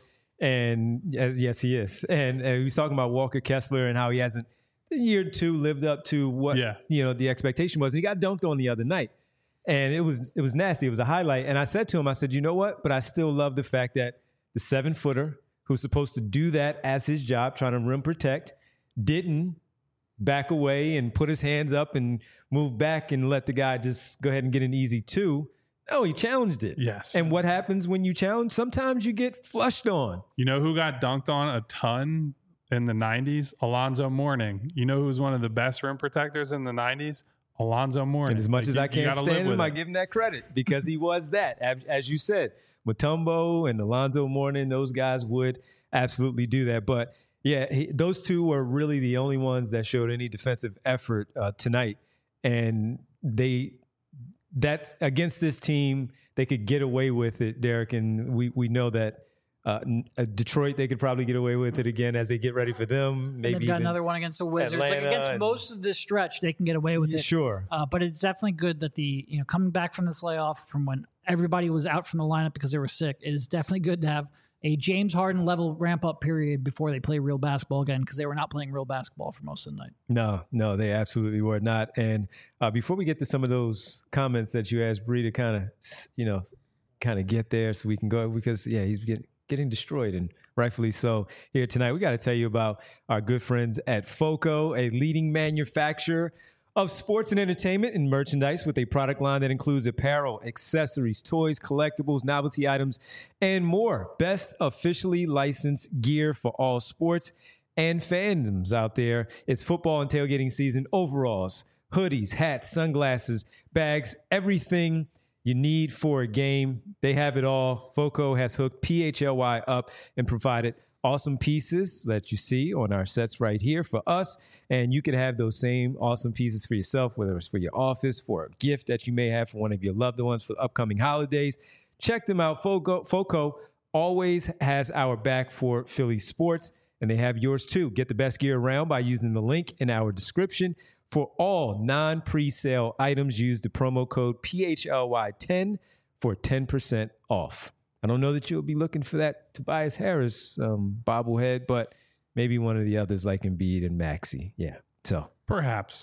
Speaker 1: And yes, he is. And he was talking about Walker Kessler and how he hasn't, in year 2, lived up to what the expectation was. He got dunked on the other night. And it was nasty. It was a highlight. And I said to him, I said, you know what? But I still love the fact that the 7-footer who's supposed to do that as his job, trying to rim protect, didn't back away and put his hands up and move back and let the guy just go ahead and get an easy 2. No, he challenged it.
Speaker 2: Yes.
Speaker 1: And what happens when you challenge? Sometimes you get flushed on.
Speaker 2: You know who got dunked on a ton in the 90s? Alonzo Mourning. You know who was one of the best rim protectors in the 90s? Alonzo Mourning.
Speaker 1: And as much as I can't stand him, I give him that credit because he was that. As you said, Mutombo and Alonzo Mourning, those guys would absolutely do that. But yeah, those two were really the only ones that showed any defensive effort tonight. And that's against this team, they could get away with it, Derek. And we know that Detroit, they could probably get away with it again as they get ready for them. Maybe
Speaker 3: they've got another one against the Wizards.
Speaker 1: Atlanta,
Speaker 3: like against most of this stretch, they can get away with it.
Speaker 1: Sure.
Speaker 3: But it's definitely good that coming back from this layoff from when everybody was out from the lineup because they were sick, it is definitely good to have a James Harden level ramp up period before they play real basketball again, because they were not playing real basketball for most of the night.
Speaker 1: No, they absolutely were not. And before we get to some of those comments that you asked Bree to kind of get there so we can go, because he's getting destroyed, and rightfully so. Here tonight, we got to tell you about our good friends at FOCO, a leading manufacturer of sports and entertainment and merchandise with a product line that includes apparel, accessories, toys, collectibles, novelty items, and more. Best officially licensed gear for all sports and fandoms out there. It's football and tailgating season. Overalls, hoodies, hats, sunglasses, bags, everything you need for a game. They have it all. FOCO has hooked PHLY up and provided awesome pieces that you see on our sets right here for us. And you can have those same awesome pieces for yourself, whether it's for your office, for a gift that you may have for one of your loved ones for the upcoming holidays. Check them out. FOCO always has our back for Philly sports, and they have yours too. Get the best gear around by using the link in our description. For all non-presale items, use the promo code PHLY10 for 10% off. I don't know that you'll be looking for that Tobias Harris bobblehead, but maybe one of the others like Embiid and Maxey. Yeah. So
Speaker 2: perhaps.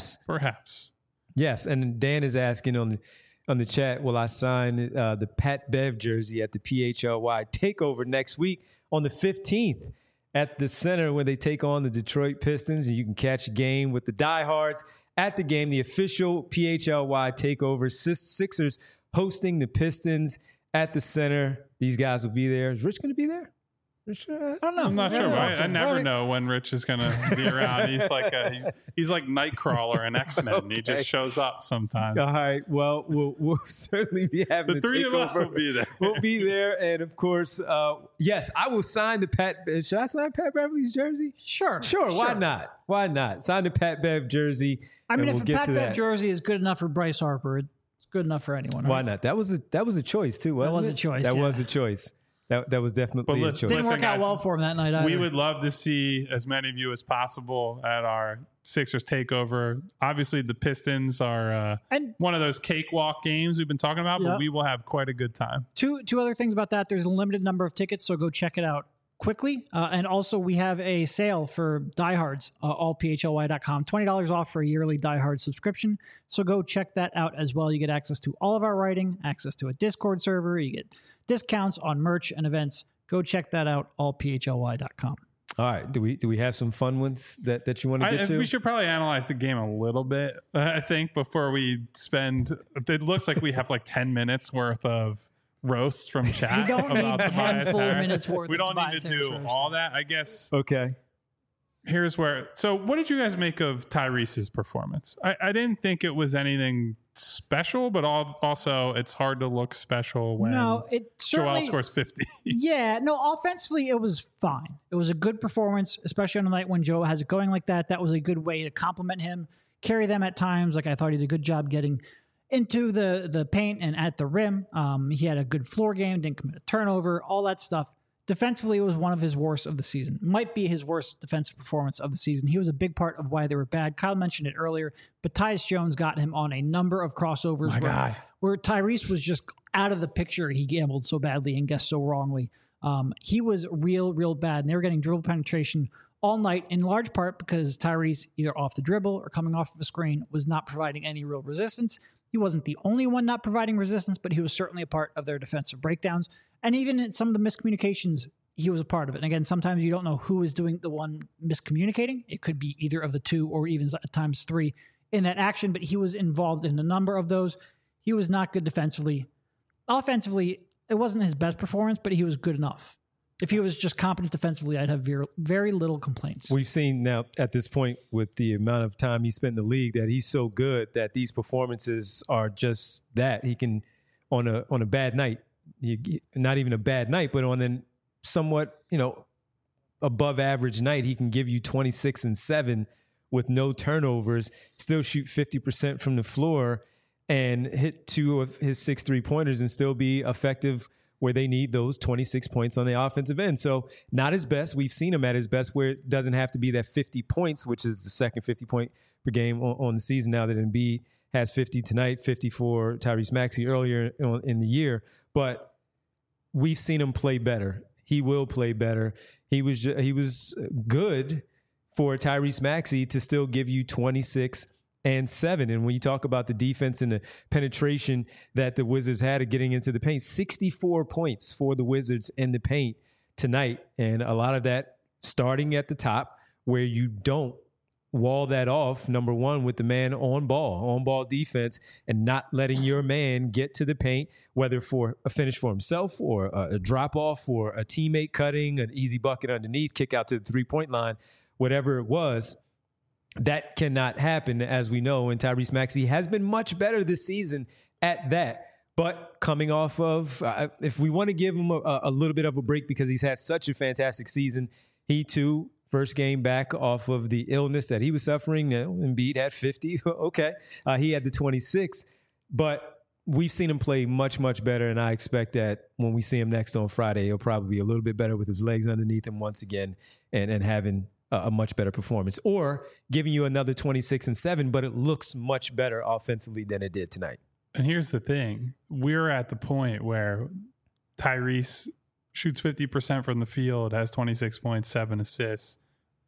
Speaker 1: Yes. And Dan is asking on the chat, will I sign the Pat Bev jersey at the PHLY takeover next week on the 15th at the center when they take on the Detroit Pistons? And you can catch a game with the diehards at the game, the official PHLY takeover. Sixers hosting the Pistons at the center. These guys will be there. Is Rich going to be there? I don't know.
Speaker 2: I'm not sure. I never know when Rich is going to be around. He's like Nightcrawler in X-Men. Okay. He just shows up sometimes.
Speaker 1: All right. Well, we'll certainly be having
Speaker 2: the three of us will be there.
Speaker 1: We'll be there, and of course, yes, I will sign the Pat. Should I sign Pat Beverly's jersey?
Speaker 3: Sure.
Speaker 1: Why not? Sign the Pat Bev jersey.
Speaker 3: I mean, if a Pat Bev jersey is good enough for Bryce Harper, it's good enough for anyone. Right?
Speaker 1: Why not? That was a choice too, wasn't it? That was a choice. That was definitely a choice.
Speaker 3: Didn't work out well for him that night either.
Speaker 2: We would love to see as many of you as possible at our Sixers takeover. Obviously, the Pistons are one of those cakewalk games we've been talking about, but we will have quite a good time.
Speaker 3: Two other things about that. There's a limited number of tickets, so go check it out quickly. And also, we have a sale for diehards, allphly.com. $20 off for a yearly diehard subscription. So go check that out as well. You get access to all of our writing, access to a Discord server. You get discounts on merch and events. Go check that out, allphly.com.
Speaker 1: All right. Do we have some fun ones that you want to get to?
Speaker 2: We should probably analyze the game a little bit, I think, before we spend. It looks like we have like 10 minutes worth of roasts from chat.
Speaker 3: We don't need 10 full minutes worth.
Speaker 2: We don't need to do all that, I guess.
Speaker 1: Okay.
Speaker 2: Here's where. So, what did you guys make of Tyrese's performance? I didn't think it was anything special, but also it's hard to look special when Joel scores 50.
Speaker 3: Yeah, no, offensively it was fine. It was a good performance, especially on a night when Joe has it going like that. That was a good way to compliment him, carry them at times. Like I thought he did a good job getting into the paint and at the rim. He had a good floor game, didn't commit a turnover, all that stuff. Defensively, it was one of his worst of the season. Might be his worst defensive performance of the season. He was a big part of why they were bad. Kyle mentioned it earlier, but Tyus Jones got him on a number of crossovers where Tyrese was just out of the picture. He gambled so badly and guessed so wrongly. He was real bad, and they were getting dribble penetration all night, in large part because Tyrese, either off the dribble or coming off of a screen, was not providing any real resistance. He wasn't the only one not providing resistance, but he was certainly a part of their defensive breakdowns. And even in some of the miscommunications, he was a part of it. And again, sometimes you don't know who is doing the one miscommunicating. It could be either of the two or even at times three in that action, but he was involved in a number of those. He was not good defensively. Offensively, it wasn't his best performance, but he was good enough. If he was just competent defensively, I'd have very little complaints.
Speaker 1: We've seen now at this point with the amount of time he spent in the league that he's so good that these performances are just that. He can, on a bad night, not even a bad night, but on a somewhat, above average night, he can give you 26 and 7 with no turnovers, still shoot 50% from the floor and hit 2 of his 6 3-pointers and still be effective where they need those 26 points on the offensive end. So not his best. We've seen him at his best where it doesn't have to be that 50 points, which is the second 50 point per game on the season now that Embiid has 50 tonight, 50 for Tyrese Maxey earlier in the year. But we've seen him play better. He will play better. He was good for Tyrese Maxey to still give you 26 and 7. And when you talk about the defense and the penetration that the Wizards had of getting into the paint, 64 points for the Wizards in the paint tonight. And a lot of that starting at the top where you don't wall that off, number one, with the man on ball defense and not letting your man get to the paint, whether for a finish for himself or a drop off or a teammate cutting, an easy bucket underneath, kick out to the 3-point line, whatever it was. That cannot happen, as we know, and Tyrese Maxey has been much better this season at that. But coming off of, if we want to give him a little bit of a break because he's had such a fantastic season, he too, first game back off of the illness that he was suffering. Embiid had 50. Okay. He had the 26. But we've seen him play much, much better, and I expect that when we see him next on Friday, he'll probably be a little bit better with his legs underneath him once again and having a much better performance, or giving you another 26 and 7, but it looks much better offensively than it did tonight.
Speaker 2: And here's the thing. We're at the point where Tyrese shoots 50% from the field, has 26 points, 7 assists,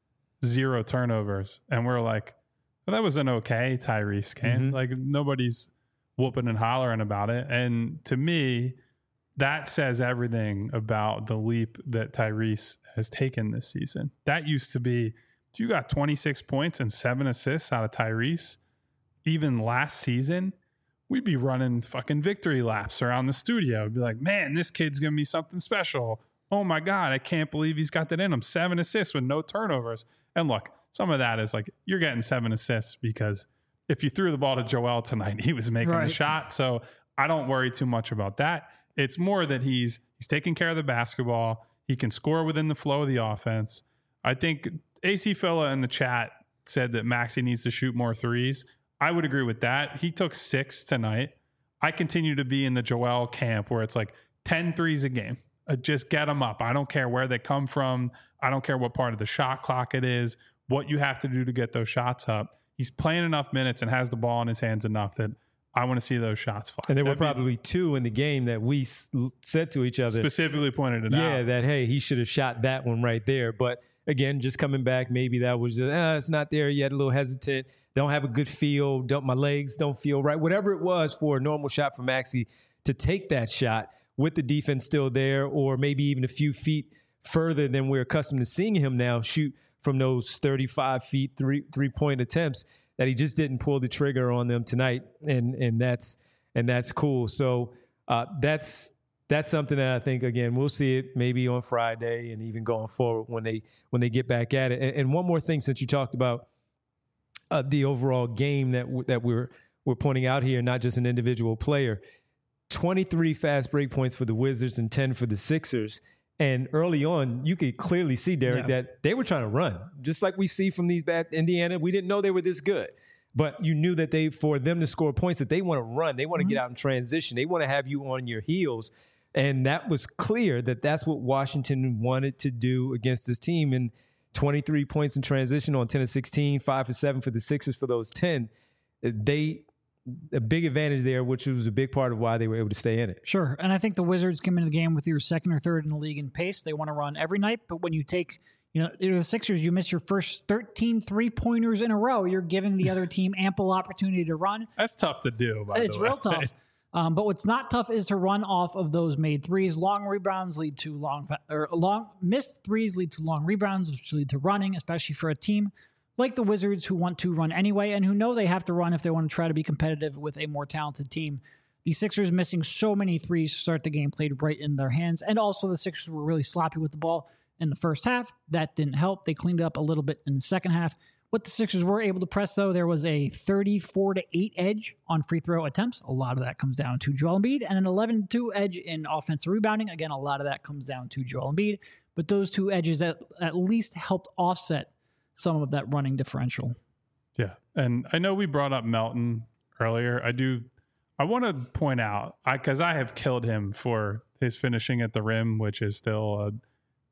Speaker 2: 0 turnovers. And we're like, well, that was an okay Tyrese game. Like nobody's whooping and hollering about it. And to me, that says everything about the leap that Tyrese has taken this season. That used to be, you got 26 points and 7 assists out of Tyrese. Even last season, we'd be running fucking victory laps around the studio. We'd be like, man, this kid's going to be something special. Oh my God, I can't believe he's got that in him. 7 assists with no turnovers. And look, some of that is like, you're getting 7 assists because if you threw the ball to Joel tonight, he was making the shot. So I don't worry too much about that. It's more that he's taking care of the basketball. He can score within the flow of the offense. I think AC Filla in the chat said that Maxey needs to shoot more threes. I would agree with that. He took 6 tonight. I continue to be in the Joel camp where it's like 10 threes a game. Just get them up. I don't care where they come from. I don't care what part of the shot clock it is, what you have to do to get those shots up. He's playing enough minutes and has the ball in his hands enough that I want to see those shots fly.
Speaker 1: And there were probably 2 in the game that we said to each other.
Speaker 2: Specifically pointed it out.
Speaker 1: Yeah, that, hey, he should have shot that one right there. But again, just coming back, maybe that was just, it's not there yet, a little hesitant. Don't have a good feel. My legs don't feel right. Whatever it was for a normal shot for Maxey to take that shot with the defense still there, or maybe even a few feet further than we're accustomed to seeing him now shoot from those 35 feet three-point attempts, that he just didn't pull the trigger on them tonight, and that's cool. So that's something that I think, again, we'll see it maybe on Friday and even going forward when they get back at it. And one more thing, since you talked about the overall game that we're pointing out here, not just an individual player. 23 fast break points for the Wizards and 10 for the Sixers. And early on, you could clearly see, Derek, that they were trying to run. Just like we see from these bad Indiana, we didn't know they were this good. But you knew that for them to score points, that they want to run. They want to get out in transition. They want to have you on your heels. And that was clear that that's what Washington wanted to do against this team. And 23 points in transition on 10 of 16, 5 for 7 for the Sixers for those 10. A big advantage there, which was a big part of why they were able to stay in it.
Speaker 3: Sure. And I think the Wizards came into the game with your second or third in the league in pace. They want to run every night. But when you take, the Sixers, you miss your first 13 3-pointers in a row. You're giving the other team ample opportunity to run.
Speaker 2: That's tough to do, by the way.
Speaker 3: It's real tough. But what's not tough is to run off of those made threes. Long rebounds lead to missed threes lead to long rebounds, which lead to running, especially for a team like the Wizards, who want to run anyway and who know they have to run if they want to try to be competitive with a more talented team. The Sixers missing so many threes to start the game played right in their hands. And also the Sixers were really sloppy with the ball in the first half. That didn't help. They cleaned it up a little bit in the second half. What the Sixers were able to press, though, there was a 34-8 edge on free throw attempts. A lot of that comes down to Joel Embiid, and an 11-2 edge in offensive rebounding. Again, a lot of that comes down to Joel Embiid. But those 2 edges at least helped offset some of that running differential.
Speaker 2: Yeah. And I know we brought up Melton earlier. I want to point out, because I have killed him for his finishing at the rim, which is still a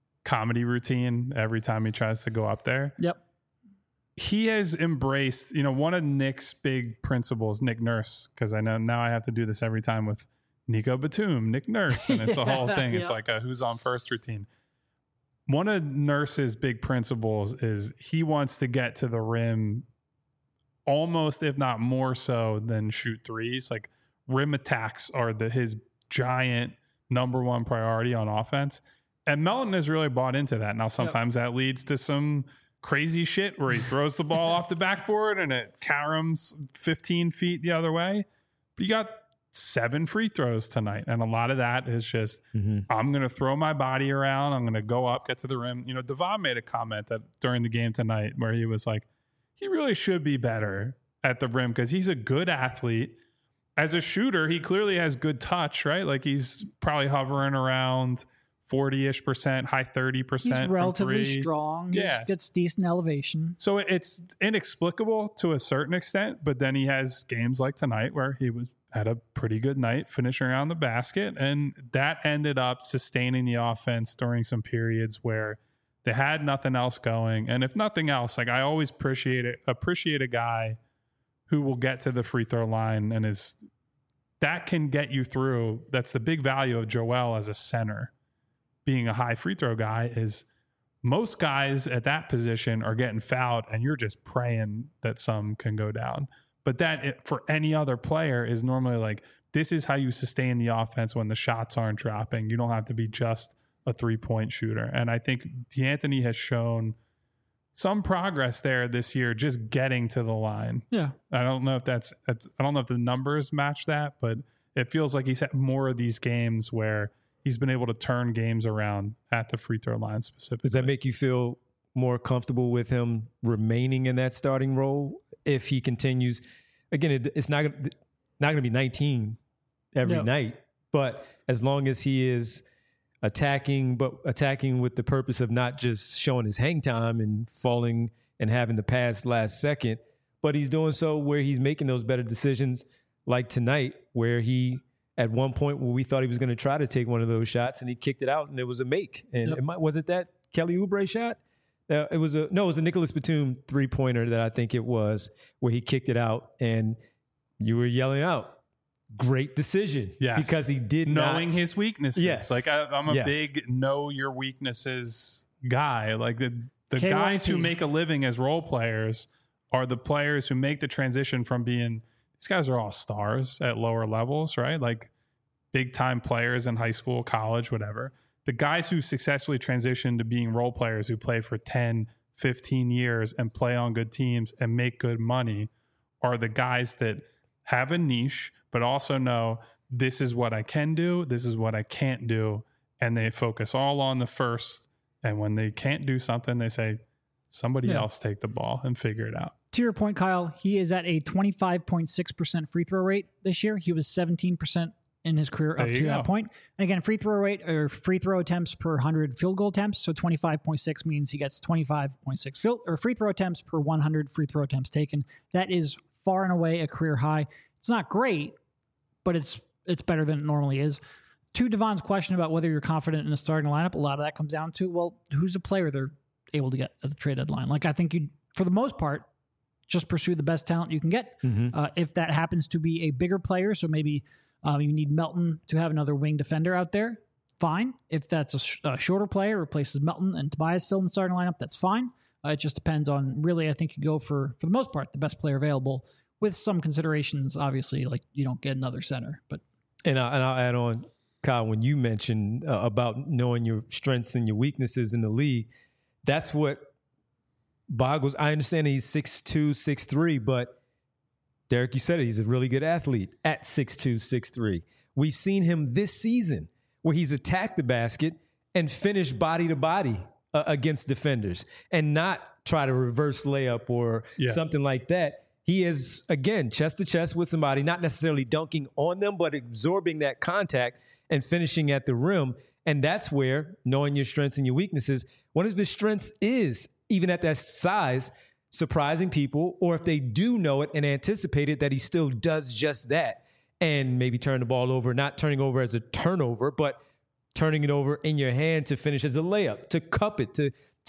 Speaker 2: comedy routine every time he tries to go up there.
Speaker 3: Yep.
Speaker 2: He has embraced, one of Nick's big principles, Nick Nurse, because I know now I have to do this every time with Nico Batum, Nick Nurse, and it's a whole thing. It's like a who's on first routine. One of Nurse's big principles is he wants to get to the rim almost, if not more so, than shoot threes. Like rim attacks are his giant number one priority on offense. And Melton has really bought into that. Now, sometimes that leads to some crazy shit where he throws the ball off the backboard and it caroms 15 feet the other way. But you got 7 free throws tonight. And a lot of that is just, I'm going to throw my body around. I'm going to go up, get to the rim. Devon made a comment that during the game tonight where he was like, he really should be better at the rim because he's a good athlete. As a shooter, he clearly has good touch, right? Like he's probably hovering around 40-ish%, high 30%.
Speaker 3: He's relatively
Speaker 2: from 3.
Speaker 3: strong.
Speaker 2: Yeah.
Speaker 3: He gets decent elevation.
Speaker 2: So it's inexplicable to a certain extent, but then he has games like tonight where he had a pretty good night finishing around the basket, and that ended up sustaining the offense during some periods where they had nothing else going. And if nothing else, like I always appreciate a guy who will get to the free throw line and that can get you through. That's the big value of Joel as a center. being a high free throw guy is most guys at that position are getting fouled and you're just praying that some can go down. But that for any other player is normally like, this is how you sustain the offense when the shots aren't dropping. You don't have to be just a 3-point shooter. And I think D'Anthony has shown some progress there this year, just getting to the line.
Speaker 3: Yeah.
Speaker 2: I don't know if the numbers match that, but it feels like he's had more of these games where he's been able to turn games around at the free throw line specifically.
Speaker 1: Does that make you feel more comfortable with him remaining in that starting role if he continues? Again, it's not going to be 19 every night, but as long as he is attacking with the purpose of not just showing his hang time and falling and having the pass last second, but he's doing so where he's making those better decisions, like tonight, where he, at one point where we thought he was going to try to take one of those shots and he kicked it out and it was a make. And was it that Kelly Oubre shot? It was a Nicholas Batum 3-pointer that I think it was, where he kicked it out and you were yelling out, great decision.
Speaker 2: Yes.
Speaker 1: Because he did
Speaker 2: knowing his weaknesses.
Speaker 1: Yes.
Speaker 2: Like I'm a big know your weaknesses guy. Like the guys who make a living as role players are the players who make the transition from being, these guys are all stars at lower levels, right? Like big time players in high school, college, whatever. The guys who successfully transition to being role players who play for 10, 15 years and play on good teams and make good money are the guys that have a niche, but also know this is what I can do, this is what I can't do. And they focus all on the first. And when they can't do something, they say, somebody else take the ball and figure it out.
Speaker 3: To your point, Kyle, he is at a 25.6% free throw rate this year. He was 17% in his career up to that point. And again, free throw rate or free throw attempts per 100 field goal attempts. So 25.6 means he gets 25.6 free throw attempts per 100 free throw attempts taken. That is far and away a career high. It's not great, but it's better than it normally is. To Devon's question about whether you're confident in a starting lineup, a lot of that comes down to, well, who's the player they're able to get at the trade deadline? Like, I think you, for the most part, just pursue the best talent you can get. Mm-hmm. If that happens to be a bigger player, so maybe you need Melton to have another wing defender out there, fine. If that's a shorter player, replaces Melton and Tobias still in the starting lineup, that's fine. It just depends on, really, I think you go for the most part, the best player available, with some considerations, obviously, like you don't get another center. But
Speaker 1: And I'll add on, Kyle, when you mentioned about knowing your strengths and your weaknesses in the league, that's what boggles. I understand he's 6'2", 6'3", but Derek, you said it, he's a really good athlete at 6'2", 6'3". We've seen him this season where he's attacked the basket and finished body to body against defenders and not try to reverse layup or something like that. He is, again, chest to chest with somebody, not necessarily dunking on them, but absorbing that contact and finishing at the rim. And that's where, knowing your strengths and your weaknesses, one of his strengths is, even at that size, surprising people, or if they do know it and anticipate it, that he still does just that and maybe turn the ball over, not turning over as a turnover, but turning it over in your hand to finish as a layup, to cup it,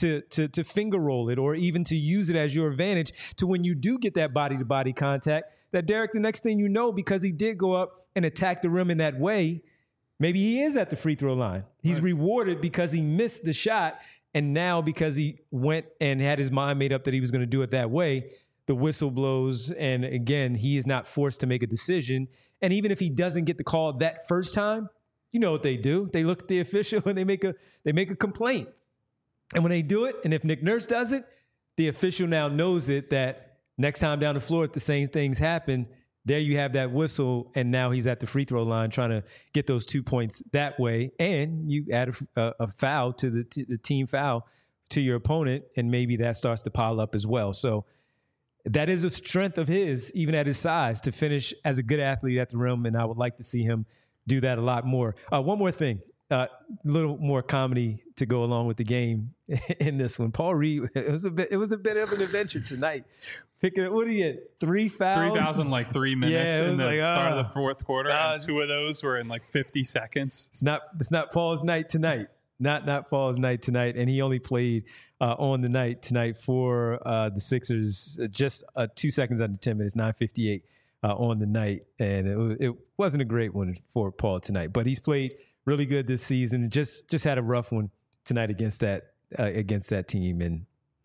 Speaker 1: to finger roll it, or even to use it as your advantage to when you do get that body-to-body contact, that Derek, the next thing you know, because he did go up and attack the rim in that way, maybe he is at the free throw line. He's rewarded because he missed the shot, and now because he went and had his mind made up that he was going to do it that way, the whistle blows, and again, he is not forced to make a decision. And even if he doesn't get the call that first time, you know what they do. They look at the official and they make a complaint. And when they do it, and if Nick Nurse does it, the official now knows it, that next time down the floor, if the same things happen, there you have that whistle, and now he's at the free throw line trying to get those 2 points that way. And you add a foul to the team foul to your opponent, and maybe that starts to pile up as well. So that is a strength of his, even at his size, to finish as a good athlete at the rim, and I would like to see him do that a lot more. One more thing. A little more comedy to go along with the game in this one. Paul Reed, it was a bit of an adventure tonight. Picking, what do you get? 3 fouls?
Speaker 2: 3 fouls in like 3 minutes in the start of the fourth quarter, and 2 of those were in like 50 seconds.
Speaker 1: It's not Paul's night tonight. Not Paul's night tonight, and he only played on the night tonight for the Sixers just 2 seconds under 10 minutes, 9:58 on the night, and it wasn't a great one for Paul tonight, but he's played really good this season. Just had a rough one tonight against that team, and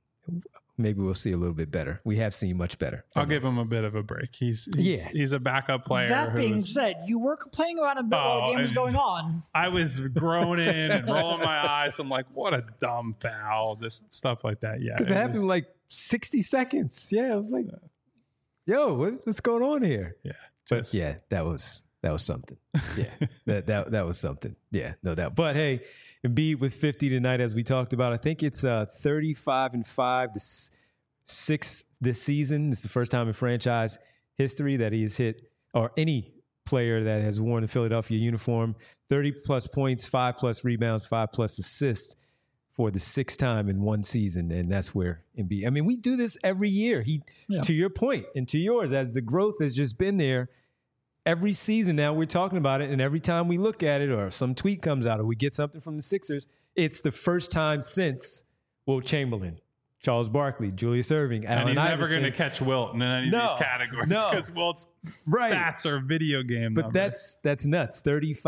Speaker 1: maybe we'll see a little bit better. We have seen much better.
Speaker 2: I'll give him a bit of a break. He's a backup player.
Speaker 3: That being said, you were complaining about him while the game was going on.
Speaker 2: I was groaning and rolling my eyes. I'm like, what a dumb foul. Just stuff like that. Yeah.
Speaker 1: Because it happened in like 60 seconds. Yeah. I was like, yo, what's going on here?
Speaker 2: Yeah.
Speaker 1: But yeah, that was something. Yeah. that was something. Yeah, no doubt. But hey, Embiid with 50 tonight, as we talked about. I think it's 35-5, the sixth this season. It's the first time in franchise history that he has hit, or any player that has worn the Philadelphia uniform, 30-plus points, 5-plus rebounds, 5-plus assists for the sixth time in one season. And that's where Embiid, I mean, we do this every year. To your point and to yours, as the growth has just been there, every season now we're talking about it, and every time we look at it or some tweet comes out or we get something from the Sixers, it's the first time since Wilt Chamberlain, Charles Barkley, Julius Irving, Allen
Speaker 2: and he's
Speaker 1: Iverson.
Speaker 2: Never going to catch Wilt in any of these categories because Wilt's stats are video game
Speaker 1: But
Speaker 2: numbers.
Speaker 1: that's nuts.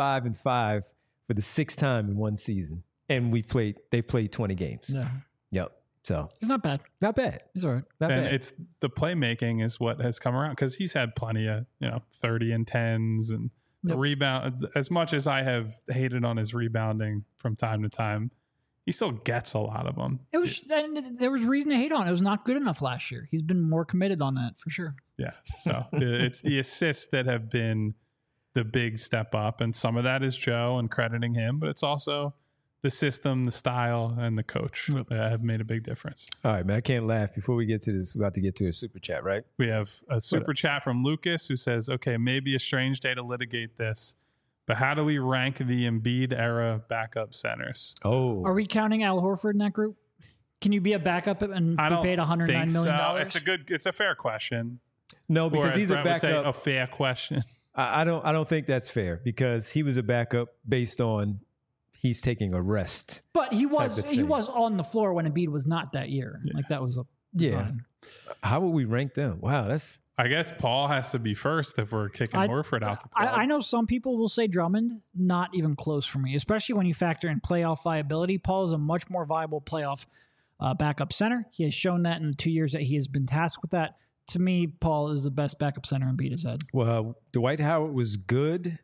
Speaker 1: 35-5 for the sixth time in one season, and they played 20 games.
Speaker 3: Yeah.
Speaker 1: Yep. So
Speaker 3: It's not bad.
Speaker 1: not bad.
Speaker 3: He's all right.
Speaker 1: Not
Speaker 2: And
Speaker 1: bad.
Speaker 2: it's the playmaking is what has come around because he's had plenty of 30 and 10s and the rebound. As much as I have hated on his rebounding from time to time, he still gets a lot of them.
Speaker 3: And there was reason to hate on it. It was not good enough last year. He's been more committed on that for sure.
Speaker 2: Yeah. So it's the assists that have been the big step up, and some of that is Joe and crediting him, but it's also the system, the style, and the coach have made a big difference.
Speaker 1: All right, man. I can't laugh. Before we get to this, we're about to get to a super chat, right?
Speaker 2: We have a super chat from Lucas who says, okay, maybe a strange day to litigate this, but how do we rank the Embiid era backup centers?
Speaker 1: Oh.
Speaker 3: Are we counting Al Horford in that group? Can you be a backup and be paid $109 million?
Speaker 2: It's a fair question.
Speaker 1: No, because he's a backup.
Speaker 2: A fair question.
Speaker 1: I don't think that's fair because he was a backup based on he's taking a rest.
Speaker 3: But he was on the floor when Embiid was not that year. Yeah. Like that was a design.
Speaker 1: How would we rank them? Wow,
Speaker 2: I guess Paul has to be first if we're kicking Horford out the club.
Speaker 3: I know some people will say Drummond, not even close for me, especially when you factor in playoff viability. Paul is a much more viable playoff backup center. He has shown that in the 2 years that he has been tasked with that. To me, Paul is the best backup center Embiid has had.
Speaker 1: Well, Dwight Howard was good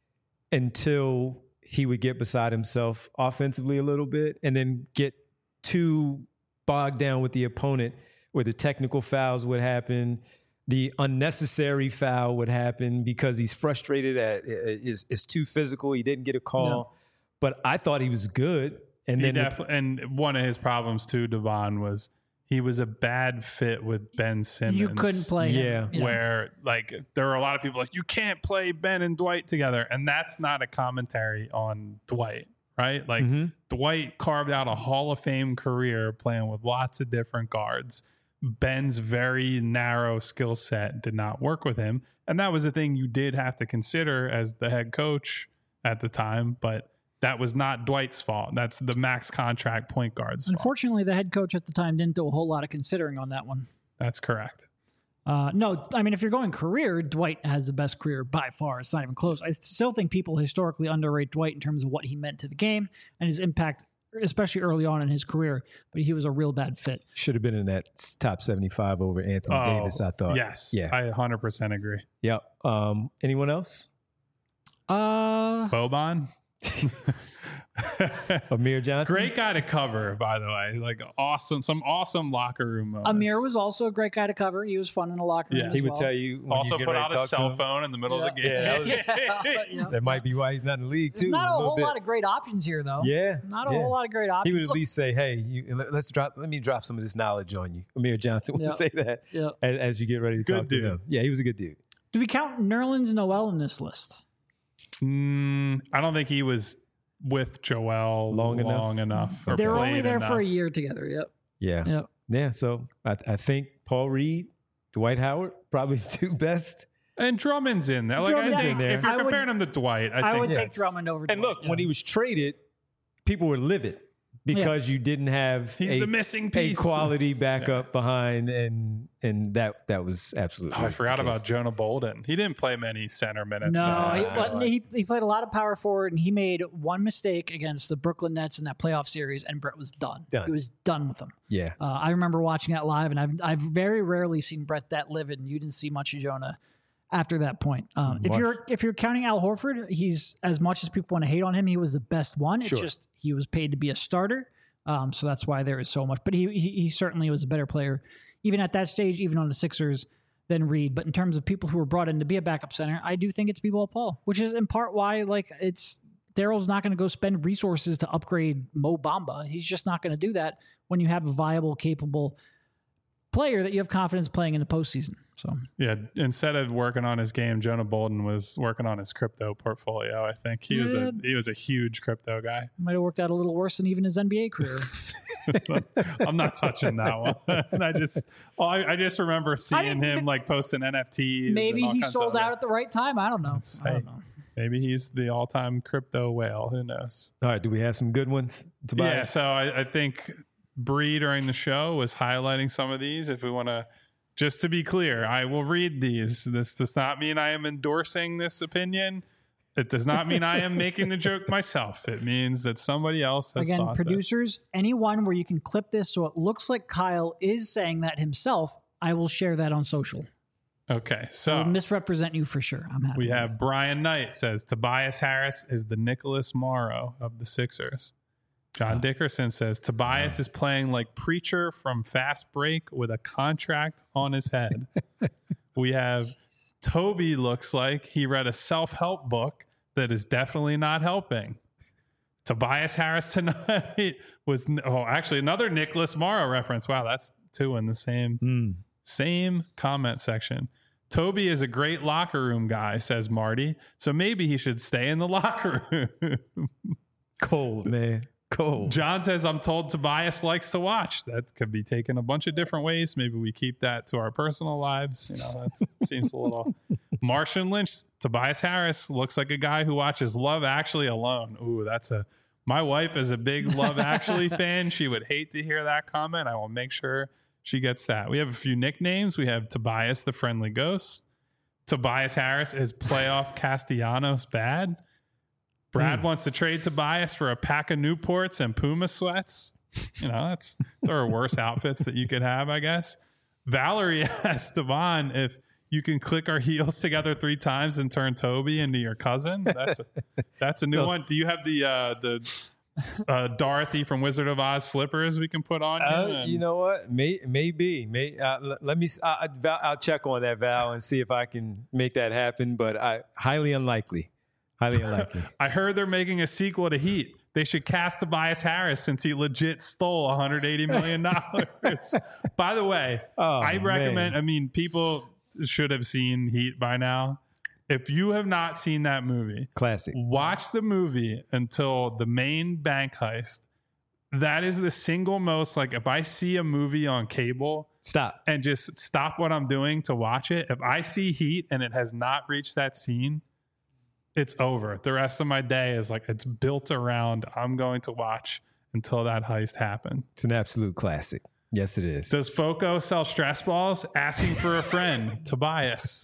Speaker 1: until he would get beside himself offensively a little bit and then get too bogged down with the opponent where the technical fouls would happen, the unnecessary foul would happen because he's frustrated is too physical. He didn't get a call. No. But I thought he was good. And
Speaker 2: and one of his problems too, Devon, was he was a bad fit with Ben Simmons.
Speaker 3: You couldn't play him.
Speaker 2: Yeah. Where like there are a lot of people like, you can't play Ben and Dwight together. And that's not a commentary on Dwight, right? Like Dwight carved out a Hall of Fame career playing with lots of different guards. Ben's very narrow skill set did not work with him. And that was the thing you did have to consider as the head coach at the time. But that was not Dwight's fault. That's the max contract point guard's fault.
Speaker 3: Unfortunately, the head coach at the time didn't do a whole lot of considering on that one.
Speaker 2: That's correct.
Speaker 3: No, I mean, if you're going career, Dwight has the best career by far. It's not even close. I still think people historically underrate Dwight in terms of what he meant to the game and his impact, especially early on in his career. But he was a real bad fit.
Speaker 1: Should have been in that top 75 over Anthony Davis, I thought.
Speaker 2: Yes. Yeah. I 100% agree.
Speaker 1: Yep. Anyone else?
Speaker 2: Boban?
Speaker 1: Amir Johnson,
Speaker 2: great guy to cover, by the way. Like some awesome locker room moments.
Speaker 3: Amir was also a great guy to cover. He was fun in the locker room.
Speaker 1: Yeah, he would tell you.
Speaker 2: Also put out a cell phone in the middle of the game.
Speaker 1: That might be why he's not in the league too.
Speaker 3: There's not a whole lot of great options here, though.
Speaker 1: Yeah,
Speaker 3: not a whole lot of great options.
Speaker 1: He would at least say, "Hey, let me drop some of this knowledge on you." Amir Johnson would say that as you get ready to talk to him. Yeah, he was a good dude.
Speaker 3: Do we count Nerlens Noel in this list?
Speaker 2: I don't think he was with Joel long enough.
Speaker 3: They were only there for a year together. Yep.
Speaker 1: Yeah. So I think Paul Reed, Dwight Howard, probably the two best.
Speaker 2: And Drummond's in there. Like I think if you're comparing him to Dwight, I
Speaker 3: would take Drummond over.
Speaker 1: And look, when he was traded, people were livid because you didn't have
Speaker 2: He's the missing piece.
Speaker 1: a quality backup behind, and that was absolutely.
Speaker 2: I forgot about Jonah Bolden. He didn't play many center minutes.
Speaker 3: No, he played a lot of power forward, and he made one mistake against the Brooklyn Nets in that playoff series, and Brett was done. He was done with them.
Speaker 1: Yeah,
Speaker 3: I remember watching that live, and I've very rarely seen Brett that livid, and you didn't see much of Jonah after that point. If you're counting Al Horford, he's, as much as people want to hate on him, he was the best one. It's just he was paid to be a starter, so that's why there is so much. But he certainly was a better player, even at that stage, even on the Sixers, than Reed. But in terms of people who were brought in to be a backup center, I do think it's B-Ball Paul, which is in part why Daryl's not going to go spend resources to upgrade Mo Bamba. He's just not going to do that when you have a viable, capable player that you have confidence playing in the postseason. So
Speaker 2: yeah, instead of working on his game, Jonah Bolden was working on his crypto portfolio. I think he was a huge crypto guy.
Speaker 3: Might have worked out a little worse than even his NBA career.
Speaker 2: I'm not touching that one. And I just remember seeing him like posting NFTs.
Speaker 3: Maybe he sold out at the right time. I don't know.
Speaker 2: Maybe he's the all-time crypto whale. Who knows?
Speaker 1: All right. Do we have some good ones, Tobias?
Speaker 2: Yeah. So I think Bree during the show was highlighting some of these. If we want to, just to be clear, I will read these. This does not mean I am endorsing this opinion. It does not mean I am making the joke myself. It means that somebody else has thought
Speaker 3: producers, anyone where you can clip this so it looks like Kyle is saying that himself, I will share that on social.
Speaker 2: Okay, so
Speaker 3: I'll misrepresent you for sure. I'm happy.
Speaker 2: We have Brian Knight says Tobias Harris is the Nicholas Morrow of the Sixers. John Dickerson says Tobias is playing like Preacher from Fast Break with a contract on his head. We have Toby looks like he read a self-help book that is definitely not helping. Tobias Harris tonight was actually another Nicholas Morrow reference. Wow, that's two in the same comment section. Toby is a great locker room guy, says Marty. So maybe he should stay in the locker room.
Speaker 1: Cold, man. Cold.
Speaker 2: John says, I'm told Tobias likes to watch. That could be taken a bunch of different ways. Maybe we keep that to our personal lives. That seems a little. Martian Lynch, Tobias Harris looks like a guy who watches Love Actually alone. Ooh, my wife is a big Love Actually fan. She would hate to hear that comment. I will make sure she gets that. We have a few nicknames. We have Tobias the Friendly Ghost. Tobias Harris is playoff Castellanos bad. Brad wants to trade Tobias for a pack of Newports and Puma sweats. There are worse outfits that you could have, I guess. Valerie asked Devon if you can click our heels together 3 times and turn Toby into your cousin. That's a new one. Do you have the Dorothy from Wizard of Oz slippers we can put on?
Speaker 1: You know what? Maybe. Let me. I'll check on that, Val, and see if I can make that happen. But highly unlikely. Highly unlikely.
Speaker 2: I heard they're making a sequel to Heat. They should cast Tobias Harris since he legit stole $180 million. By the way, I recommend, people should have seen Heat by now. If you have not seen that movie,
Speaker 1: classic,
Speaker 2: watch the movie until the main bank heist. That is the single most, if I see a movie on cable,
Speaker 1: stop
Speaker 2: and just stop what I'm doing to watch it. If I see Heat and it has not reached that scene, it's over. The rest of my day is it's built around I'm going to watch until that heist happened.
Speaker 1: It's an absolute classic. Yes, it is.
Speaker 2: Does Foco sell stress balls? Asking for a friend. Tobias.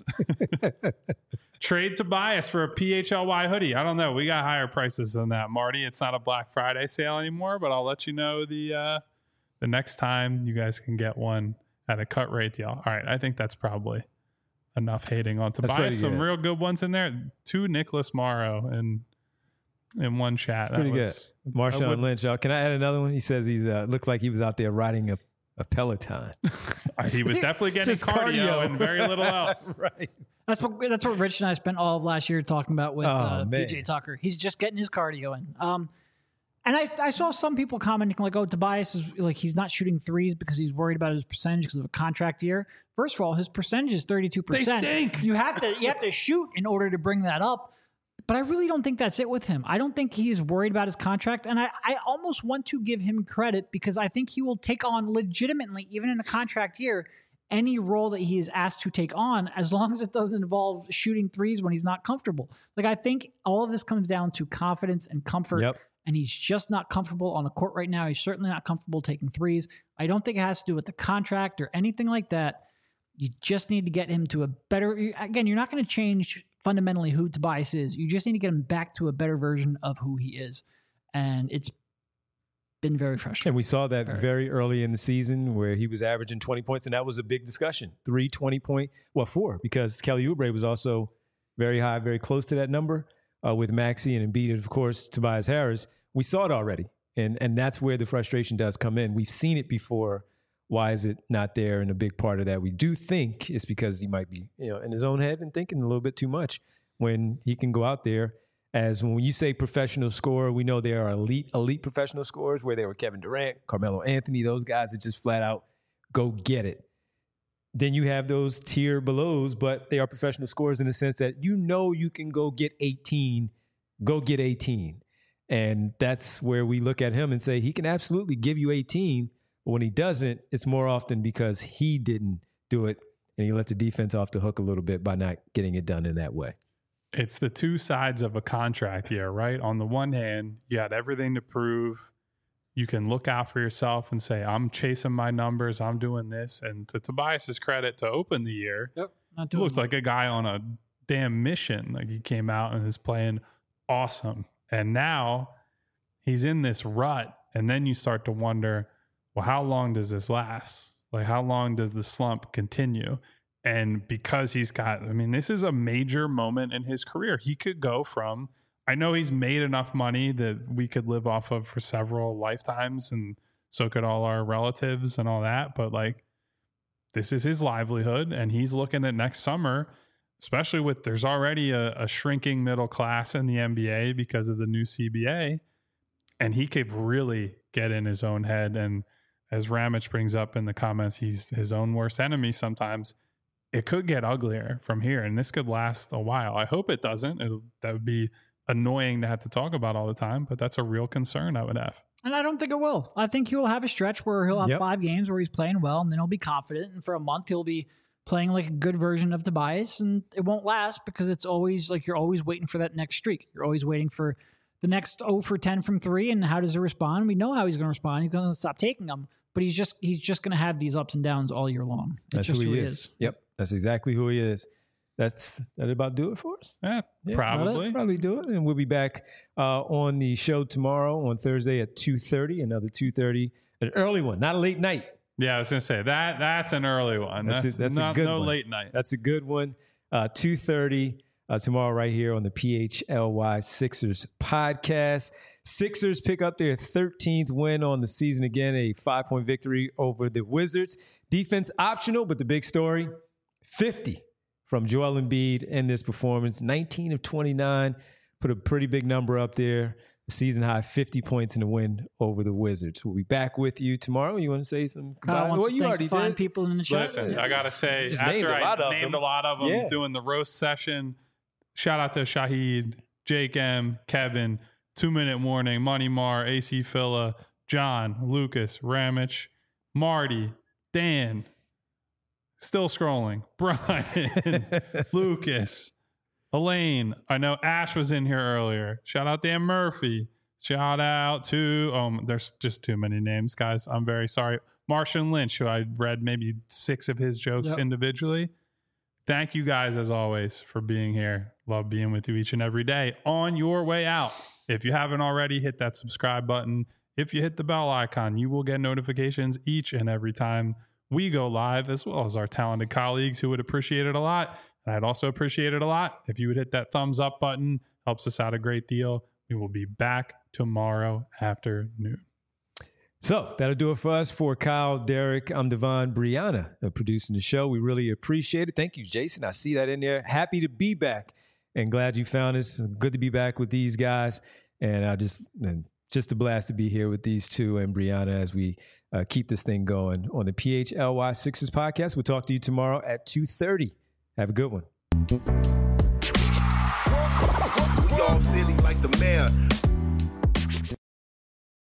Speaker 2: Trade Tobias for a PHLY hoodie. I don't know. We got higher prices than that, Marty. It's not a Black Friday sale anymore, but I'll let you know the next time you guys can get one at a cut rate deal. All right. I think that's probably enough hating on Tobias. Some real good ones in there. 2 Nicholas Morrow in one chat.
Speaker 1: Pretty good. Marshawn Lynch. Can I add another one? He says he's looked like he was out there riding a Peloton.
Speaker 2: He was definitely getting cardio and very little else.
Speaker 3: Right. That's what Rich and I spent all of last year talking about with PJ Tucker. He's just getting his cardio in. And I saw some people commenting Tobias is he's not shooting threes because he's worried about his percentage because of a contract year. First of all, his percentage is 32%.
Speaker 2: They stink.
Speaker 3: You have to shoot in order to bring that up. But I really don't think that's it with him. I don't think he's worried about his contract. And I almost want to give him credit because I think he will take on legitimately, even in a contract year, any role that he is asked to take on, as long as it doesn't involve shooting threes when he's not comfortable. I think all of this comes down to confidence and comfort.
Speaker 1: Yep.
Speaker 3: and he's just not comfortable on the court right now. He's certainly not comfortable taking threes. I don't think it has to do with the contract or anything like that. You just need to get him to a better, again, you're not going to change fundamentally who Tobias is. You just need to get him back to a better version of who he is. And it's been very frustrating.
Speaker 1: And we saw that very early in the season where he was averaging 20 points, and that was a big discussion. 3 20-point, well, 4, because Kelly Oubre was also very high, very close to that number with Maxey and Embiid, and of course, Tobias Harris. We saw it already, and that's where the frustration does come in. We've seen it before. Why is it not there? And a big part of that, we do think, is because he might be, in his own head and thinking a little bit too much when he can go out there. As when you say professional scorer, we know there are elite professional scorers where they were Kevin Durant, Carmelo Anthony, those guys that just flat out go get it. Then you have those tier belows, but they are professional scorers in the sense that you can go get 18, go get 18. And that's where we look at him and say he can absolutely give you 18, but when he doesn't, it's more often because he didn't do it and he let the defense off the hook a little bit by not getting it done in that way.
Speaker 2: It's the two sides of a contract here, right? On the one hand, you had everything to prove. You can look out for yourself and say, I'm chasing my numbers, I'm doing this. And to Tobias's credit, to open the year, he looked like a guy on a damn mission. Like he came out and is playing awesome. And now he's in this rut. And then you start to wonder, well, how long does this last? Like, how long does the slump continue? And because this is a major moment in his career. He could go from, I know he's made enough money that we could live off of for several lifetimes, and so could all our relatives and all that. But this is his livelihood, and he's looking at next summer, especially with there's already a shrinking middle class in the NBA because of the new CBA, and he could really get in his own head. And as Ramich brings up in the comments, he's his own worst enemy sometimes. It could get uglier from here, and this could last a while. I hope it doesn't. That would be annoying to have to talk about all the time, but that's a real concern I would have.
Speaker 3: And I don't think it will. I think he will have a stretch where he'll have 5 games where he's playing well, and then he'll be confident. And for a month, he'll be playing like a good version of Tobias, and it won't last because it's always like you're always waiting for that next streak. You're always waiting for the next 0 for 10 from 3, and how does he respond? We know how he's going to respond. He's going to stop taking them, but he's just going to have these ups and downs all year long.
Speaker 1: That's just who he is. Yep, that's exactly who he is. That about do it for us?
Speaker 2: Yeah, probably
Speaker 1: do it. And we'll be back on the show tomorrow on Thursday at 2:30. Another 2:30, an early one, not a late night.
Speaker 2: Yeah, I was going to say that's an early one. That's not, a good one. Late night.
Speaker 1: That's a good one. 2:30 tomorrow right here on the PHLY Sixers podcast. Sixers pick up their 13th win on the season again, a 5-point victory over the Wizards. Defense optional, but the big story, 50 from Joel Embiid in this performance. 19 of 29, put a pretty big number up there. Season high 50 points in the win over the Wizards. We'll be back with you tomorrow. You want to say some?
Speaker 3: Well, you already did. People in the chat.
Speaker 2: Listen, I gotta say, after I named a lot of them doing the roast session, shout out to Shahid, Jake M, Kevin, 2 Minute Warning, Money Mar, AC Phila, John, Lucas, Ramich, Marty, Dan. Still scrolling. Brian, Lucas, Elaine. I know Ash was in here earlier. Shout out Dan Murphy. Shout out to, there's just too many names, guys. I'm very sorry. Martian Lynch, who I read maybe 6 of his jokes individually. Thank you guys, as always, for being here. Love being with you each and every day. On your way out, if you haven't already, hit that subscribe button. If you hit the bell icon, you will get notifications each and every time we go live, as well as our talented colleagues who would appreciate it a lot. And I'd also appreciate it a lot if you would hit that thumbs up button. Helps us out a great deal. We will be back tomorrow afternoon.
Speaker 1: So that'll do it for us. For Kyle, Derek, I'm Devon, Brianna producing the show. We really appreciate it. Thank you, Jason. I see that in there. Happy to be back and glad you found us. Good to be back with these guys. And just a blast to be here with these two and Brianna as we keep this thing going on the PHLY Sixers podcast. We'll talk to you tomorrow at 2:30. Have a good one.
Speaker 4: We all silly like the mayor.